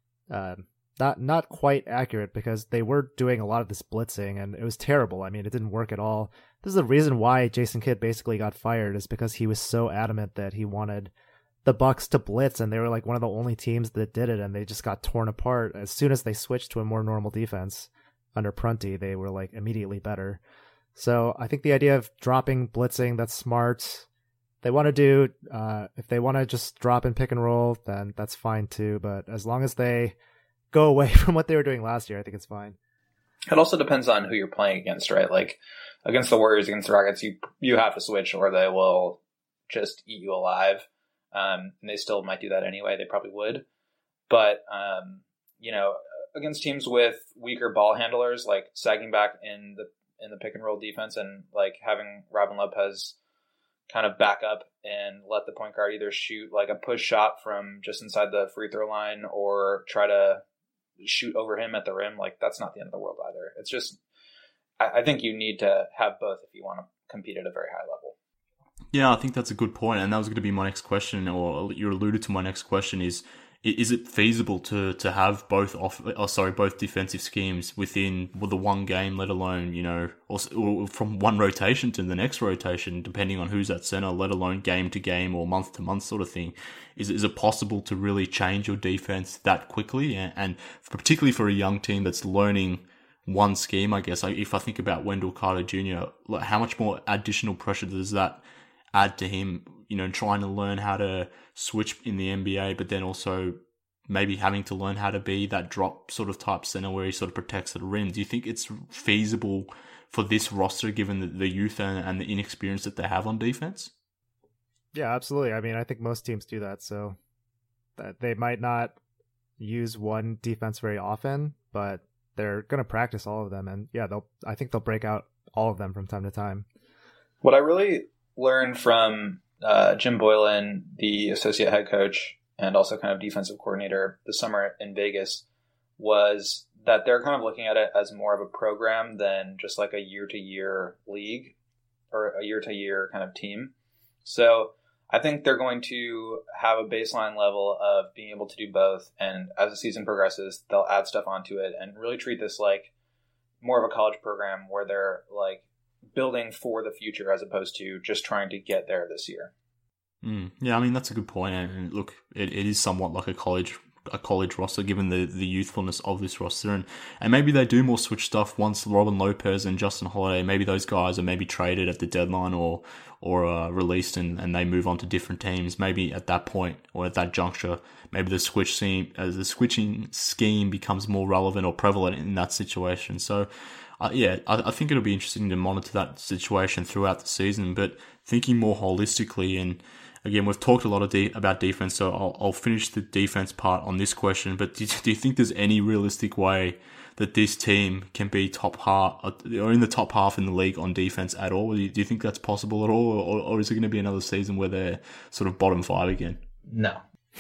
not quite accurate, because they were doing a lot of this blitzing and it was terrible. I mean, it didn't work at all. This is the reason why Jason Kidd basically got fired, is because he was so adamant that he wanted the Bucks to blitz, and they were one of the only teams that did it, and they just got torn apart. As soon as they switched to a more normal defense under Prunty, they were immediately better. So I think the idea of dropping blitzing, that's smart. They want to do, if they want to just drop and pick and roll, then that's fine too. But as long as they go away from what they were doing last year, I think it's fine. It also depends on who you're playing against, right? Against the Warriors, against the Rockets, you have to switch or they will just eat you alive. And they still might do that anyway. They probably would. But, against teams with weaker ball handlers, sagging back in the pick and roll defense and having Robin Lopez kind of back up and let the point guard either shoot a push shot from just inside the free throw line or try to shoot over him at the rim, that's not the end of the world either. It's just, I think you need to have both if you want to compete at a very high level. Yeah, I think that's a good point, and that was going to be my next question, or you alluded to my next question, is it feasible to have both both defensive schemes within the one game, let alone, or from one rotation to the next rotation, depending on who's at center, let alone game to game or month to month sort of thing? Is it possible to really change your defense that quickly? And particularly for a young team that's learning one scheme, I guess, if I think about Wendell Carter Jr., how much more additional pressure does that add to him, trying to learn how to switch in the NBA, but then also maybe having to learn how to be that drop sort of type center where he sort of protects the rim? Do you think it's feasible for this roster, given the youth and the inexperience that they have on defense? Yeah, absolutely. I mean, I think most teams do that, so they might not use one defense very often, but they're going to practice all of them, and yeah, I think they'll break out all of them from time to time. What I really learned from Jim Boylan, the associate head coach and also kind of defensive coordinator this summer in Vegas, was that they're kind of looking at it as more of a program than just a year-to-year league or a year-to-year kind of team. So I think they're going to have a baseline level of being able to do both, and as the season progresses, they'll add stuff onto it and really treat this like more of a college program where they're building for the future as opposed to just trying to get there this year. Yeah, I mean, that's a good point. And look, it is somewhat like a college roster, given the youthfulness of this roster, and maybe they do more switch stuff once Robin Lopez and Justin Holiday, maybe those guys are maybe traded at the deadline or released and they move on to different teams. Maybe at that point or at that juncture, maybe the switching scheme becomes more relevant or prevalent in that situation. So I think it'll be interesting to monitor that situation throughout the season, but thinking more holistically. And again, we've talked a lot about defense, so I'll finish the defense part on this question. But do you think there's any realistic way that this team can be top half or in the top half in the league on defense at all? Do you think that's possible at all, or is it going to be another season where they're sort of bottom 5 again? No.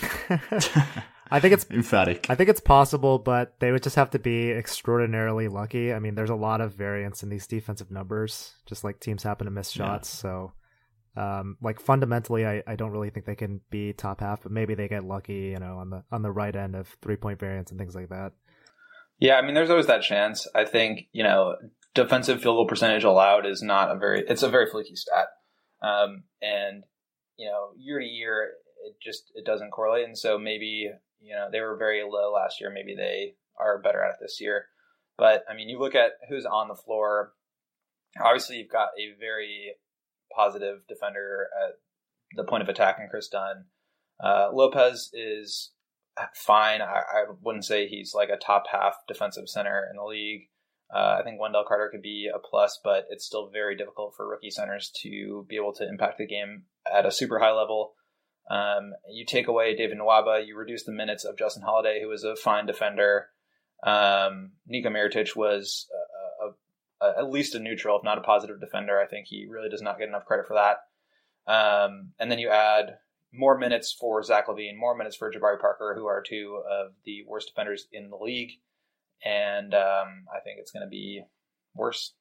I think it's emphatic. I think it's possible, but they would just have to be extraordinarily lucky. I mean, there's a lot of variance in these defensive numbers, just like teams happen to miss shots. Yeah. So, fundamentally, I don't really think they can be top half, but maybe they get lucky, on the right end of 3-point variance and things like that. Yeah, I mean, there's always that chance. I think, defensive field goal percentage allowed is it's a very fluky stat. And, year to year, it doesn't correlate. And so maybe, they were very low last year. Maybe they are better at it this year. But I mean, you look at who's on the floor. Obviously, you've got a very positive defender at the point of attack in Chris Dunn. Lopez is fine. I wouldn't say he's like a top half defensive center in the league. I think Wendell Carter could be a plus, but it's still very difficult for rookie centers to be able to impact the game at a super high level. You take away David Nwaba, you reduce the minutes of Justin Holiday, who was a fine defender. Niko Mirotic was at least a neutral, if not a positive defender. I think he really does not get enough credit for that. And then you add more minutes for Zach LaVine, more minutes for Jabari Parker, who are two of the worst defenders in the league. And I think it's going to be worse.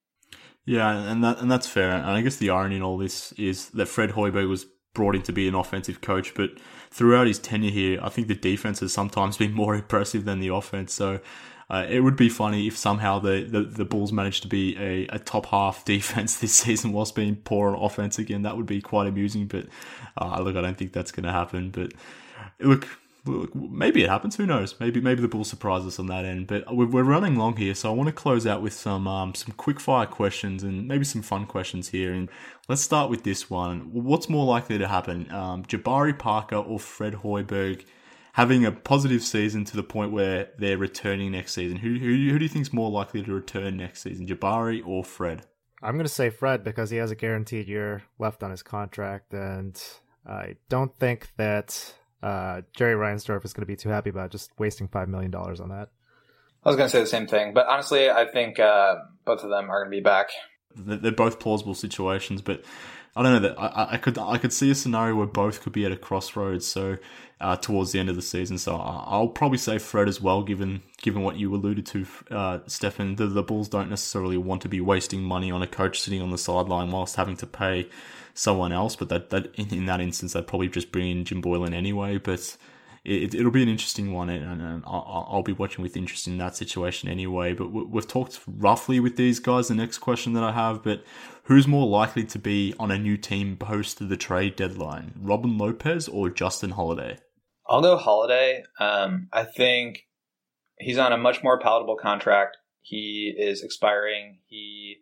Yeah, and that's fair. And I guess the irony in all this is that Fred Hoiberg was brought in to be an offensive coach, but throughout his tenure here, I think the defense has sometimes been more impressive than the offense. So it would be funny if somehow the Bulls managed to be a top half defense this season whilst being poor on offense again. That would be quite amusing, but look, I don't think that's going to happen. But look, maybe it happens. Who knows? Maybe the Bulls surprise us on that end. But we're running long here, so I want to close out with some quick fire questions and maybe some fun questions here. And let's start with this one. What's more likely to happen? Jabari Parker or Fred Hoiberg having a positive season to the point where they're returning next season? Who do you think is more likely to return next season, Jabari or Fred? I'm going to say Fred because he has a guaranteed year left on his contract, and I don't think that Jerry Reinsdorf is going to be too happy about just wasting $5 million on that. I was going to say the same thing, but honestly, I think both of them are going to be back. They're both plausible situations, but I don't know that I could see a scenario where both could be at a crossroads. So towards the end of the season, so I'll probably say Fred as well, given what you alluded to, Stefan. The Bulls don't necessarily want to be wasting money on a coach sitting on the sideline whilst having to pay someone else, but that in that instance they'd probably just bring in Jim Boylan anyway. But it'll be an interesting one, and I'll be watching with interest in that situation anyway. But we've talked roughly with these guys. The next question that I have, but who's more likely to be on a new team post the trade deadline, Robin Lopez or Justin Holiday? I'll go Holiday. I think he's on a much more palatable contract. He is expiring. He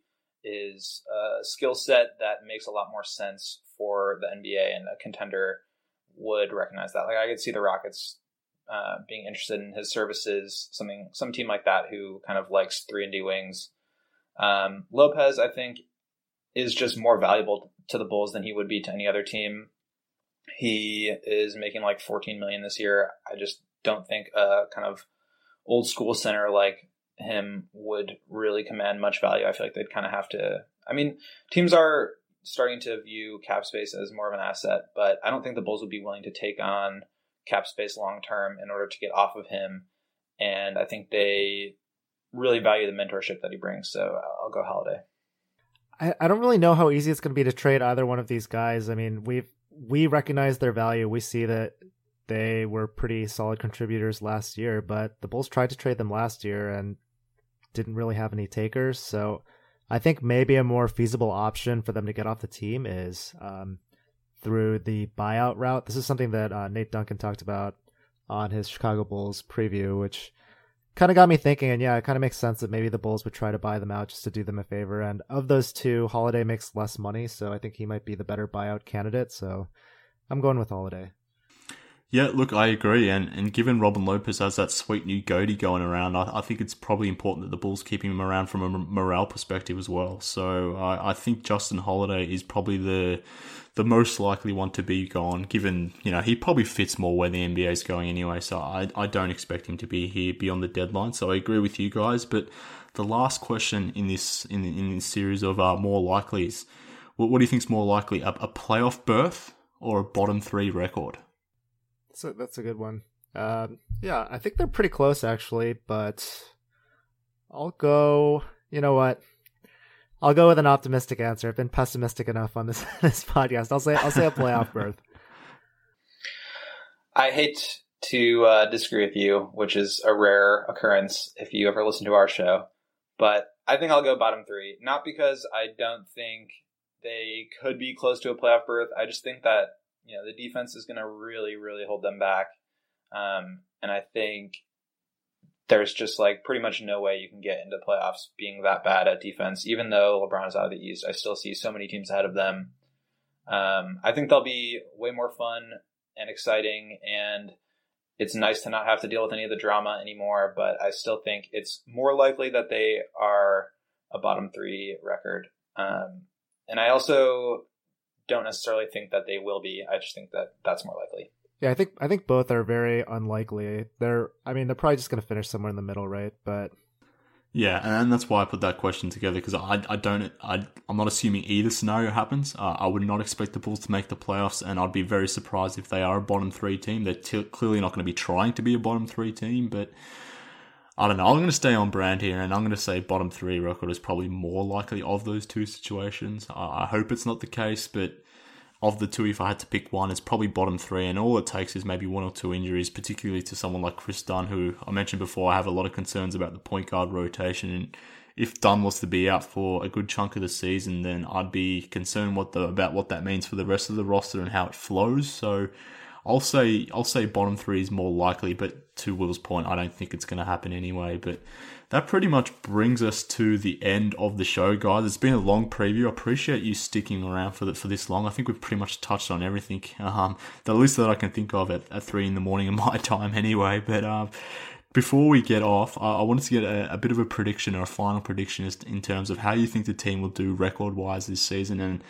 is a skill set that makes a lot more sense for the NBA, and a contender would recognize that. Like, I could see the Rockets being interested in his services, some team like that who kind of likes 3-and-D wings. Lopez, I think, is just more valuable to the Bulls than he would be to any other team. He is making like $14 million this year. I just don't think a kind of old school center like him would really command much value. I feel like they'd kind of have to. I mean, teams are starting to view cap space as more of an asset, but I don't think the Bulls would be willing to take on cap space long term in order to get off of him. And I think they really value the mentorship that he brings. So I'll go Holiday. I don't really know how easy it's going to be to trade either one of these guys. I mean, we recognize their value. We see that they were pretty solid contributors last year, but the Bulls tried to trade them last year and didn't really have any takers. So I think maybe a more feasible option for them to get off the team is through the buyout route. This is something that Nate Duncan talked about on his Chicago Bulls preview, which kind of got me thinking. And yeah, it kind of makes sense that maybe the Bulls would try to buy them out just to do them a favor. And of those two, Holiday makes less money, so I think he might be the better buyout candidate. So I'm going with Holiday. Yeah, look, I agree. And given Robin Lopez has that sweet new goatee going around, I think it's probably important that the Bulls keep him around from a morale perspective as well. So I think Justin Holiday is probably the most likely one to be gone, given, he probably fits more where the NBA is going anyway. So I don't expect him to be here beyond the deadline. So I agree with you guys. But the last question in this series of more likelies, what do you think is more likely, a playoff berth or a bottom 3 record? So that's a good one. Yeah, I think they're pretty close actually, but I'll go. You know what? I'll go with an optimistic answer. I've been pessimistic enough on this podcast. I'll say a playoff berth. I hate to disagree with you, which is a rare occurrence if you ever listen to our show, but I think I'll go bottom 3. Not because I don't think they could be close to a playoff berth. I just think that the defense is going to really, really hold them back. And I think there's just pretty much no way you can get into playoffs being that bad at defense. Even though LeBron's out of the East, I still see so many teams ahead of them. I think they'll be way more fun and exciting, and it's nice to not have to deal with any of the drama anymore, but I still think it's more likely that they are a bottom 3 record. And I also don't necessarily think that they will be. I just think that that's more likely. Yeah, I think both are very unlikely. They're probably just going to finish somewhere in the middle, right? But yeah, and that's why I put that question together, because I'm not assuming either scenario happens. I would not expect the Bulls to make the playoffs, and I'd be very surprised if they are a bottom 3 team. They're clearly not going to be trying to be a bottom 3 team, but I don't know. I'm going to stay on brand here, and I'm going to say bottom 3 record is probably more likely of those two situations. I hope it's not the case, but of the two, if I had to pick one, it's probably bottom 3, and all it takes is maybe 1 or 2 injuries, particularly to someone like Chris Dunn, who I mentioned before, I have a lot of concerns about the point guard rotation, and if Dunn was to be out for a good chunk of the season, then I'd be concerned about what that means for the rest of the roster and how it flows. So I'll say bottom 3 is more likely, but to Will's point, I don't think it's going to happen anyway. But that pretty much brings us to the end of the show, guys. It's been a long preview. I appreciate you sticking around for this long. I think we've pretty much touched on everything, the list that I can think of at 3 in the morning in my time anyway. But before we get off, I wanted to get a bit of a prediction, or a final prediction, in terms of how you think the team will do record-wise this season. And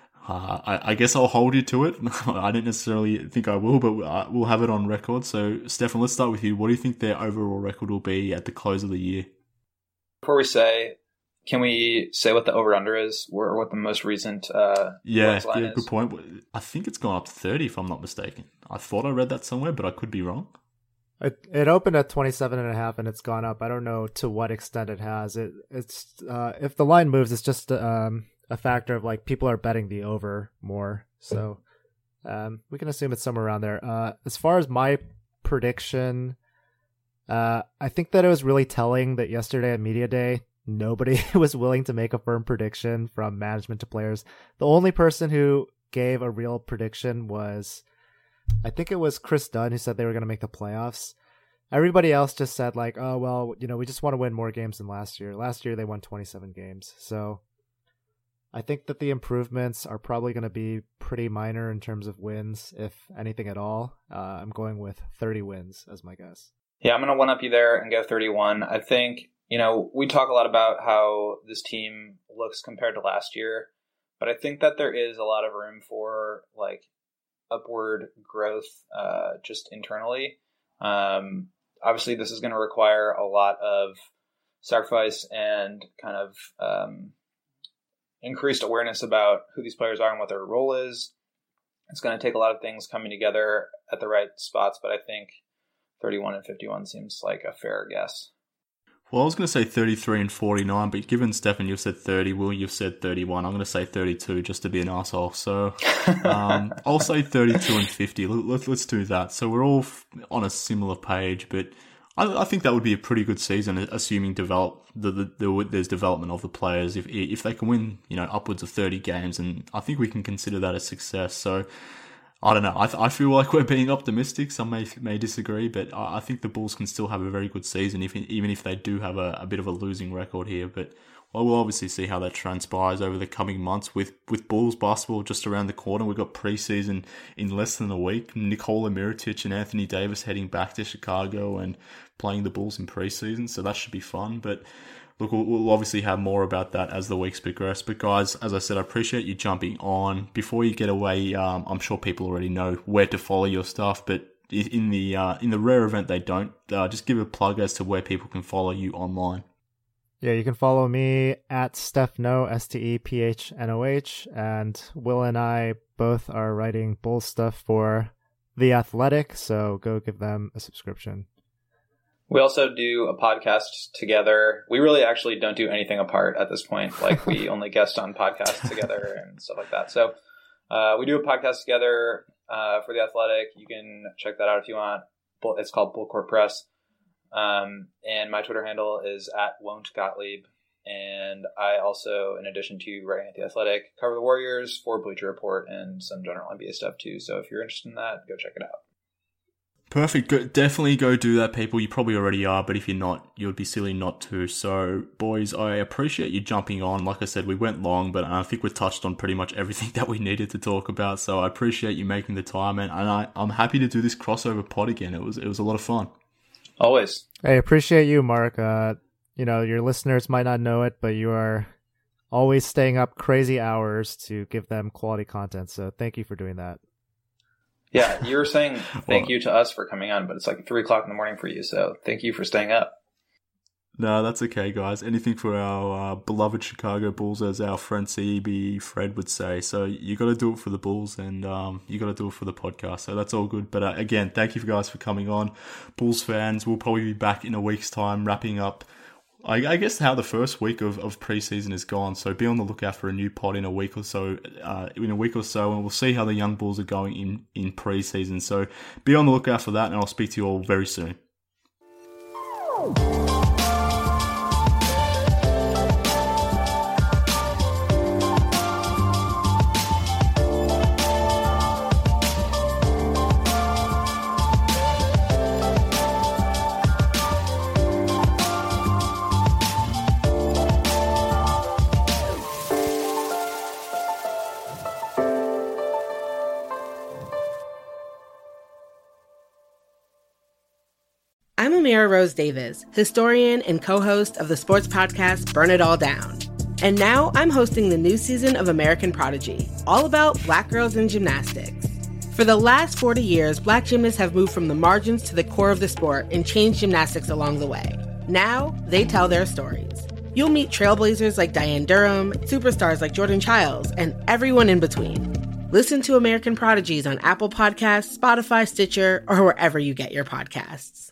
I guess I'll hold you to it. I don't necessarily think I will, but we'll have it on record. So, Stefan, let's start with you. What do you think their overall record will be at the close of the year? Before we say, can we say what the over-under is, or what the most recent line is? Good point. I think it's gone up to 30, if I'm not mistaken. I thought I read that somewhere, but I could be wrong. It opened at 27.5 and it's gone up. I don't know to what extent it has. It's if the line moves, it's just a factor of people are betting the over more. So we can assume it's somewhere around there. As far as my prediction, I think that it was really telling that yesterday at Media Day, nobody was willing to make a firm prediction, from management to players. The only person who gave a real prediction was, I think it was Chris Dunn, who said they were going to make the playoffs. Everybody else just said oh, well, we just want to win more games than last year. Last year they won 27 games. So I think that the improvements are probably going to be pretty minor in terms of wins, if anything at all. I'm going with 30 wins as my guess. Yeah, I'm going to one-up you there and go 31. I think, we talk a lot about how this team looks compared to last year, but I think that there is a lot of room for, upward growth just internally. Obviously, this is going to require a lot of sacrifice and kind of increased awareness about who these players are and what their role is. It's going to take a lot of things coming together at the right spots, but I think 31 and 51 seems like a fair guess. Well, I was going to say 33 and 49, but given Stefan, you've said 30, Will, you've said 31. I'm going to say 32 just to be an asshole. So I'll say 32 and 50. Let's do that. So we're all on a similar page, but I think that would be a pretty good season, assuming there's development of the players. If they can win, upwards of 30 games, and I think we can consider that a success. So I don't know. I feel like we're being optimistic. Some may disagree, but I think the Bulls can still have a very good season, even if they do have a bit of a losing record here. But we'll obviously see how that transpires over the coming months. With Bulls basketball just around the corner, we've got preseason in less than a week. Nikola Mirotic and Anthony Davis heading back to Chicago and playing the Bulls in preseason, so that should be fun. But look, we'll obviously have more about that as the weeks progress. But guys, as I said, I appreciate you jumping on. Before you get away, I'm sure people already know where to follow your stuff, but in the rare event they don't, just give a plug as to where people can follow you online. Yeah, you can follow me at Stephnoh, STEPHNOH, and Will and I both are writing Bulls stuff for The Athletic, so go give them a subscription. We also do a podcast together. We really actually don't do anything apart at this point. Like, we only guest on podcasts together and stuff like that. So we do a podcast together for The Athletic. You can check that out if you want. It's called Bull Court Press. And my Twitter handle is @Won'tGottlieb. And I also, in addition to writing at The Athletic, cover the Warriors for Bleacher Report and some general NBA stuff too. So if you're interested in that, go check it out. Perfect. Definitely go do that, people. You probably already are, but if you're not, you would be silly not to. So, boys, I appreciate you jumping on. Like I said, we went long, but I think we touched on pretty much everything that we needed to talk about. So I appreciate you making the time, and I'm happy to do this crossover pod again. It was a lot of fun. Always. Hey, appreciate you, Mark. Your listeners might not know it, but you are always staying up crazy hours to give them quality content. So thank you for doing that. Yeah, you were saying thank you to us for coming on, but it's like 3 o'clock in the morning for you, so thank you for staying up. No, that's okay, guys. Anything for our beloved Chicago Bulls, as our friend CB Fred would say. So you got to do it for the Bulls, and you got to do it for the podcast. So that's all good. But again, thank you guys for coming on. Bulls fans, we'll probably be back in a week's time, wrapping up, I guess, how the first week of preseason is gone. So be on the lookout for a new pod in a week or so. And we'll see how the young Bulls are going in preseason. So be on the lookout for that, and I'll speak to you all very soon. I'm Amira Rose Davis, historian and co-host of the sports podcast Burn It All Down. And now I'm hosting the new season of American Prodigy, all about Black girls in gymnastics. For the last 40 years, Black gymnasts have moved from the margins to the core of the sport and changed gymnastics along the way. Now, they tell their stories. You'll meet trailblazers like Diane Durham, superstars like Jordan Childs, and everyone in between. Listen to American Prodigies on Apple Podcasts, Spotify, Stitcher, or wherever you get your podcasts.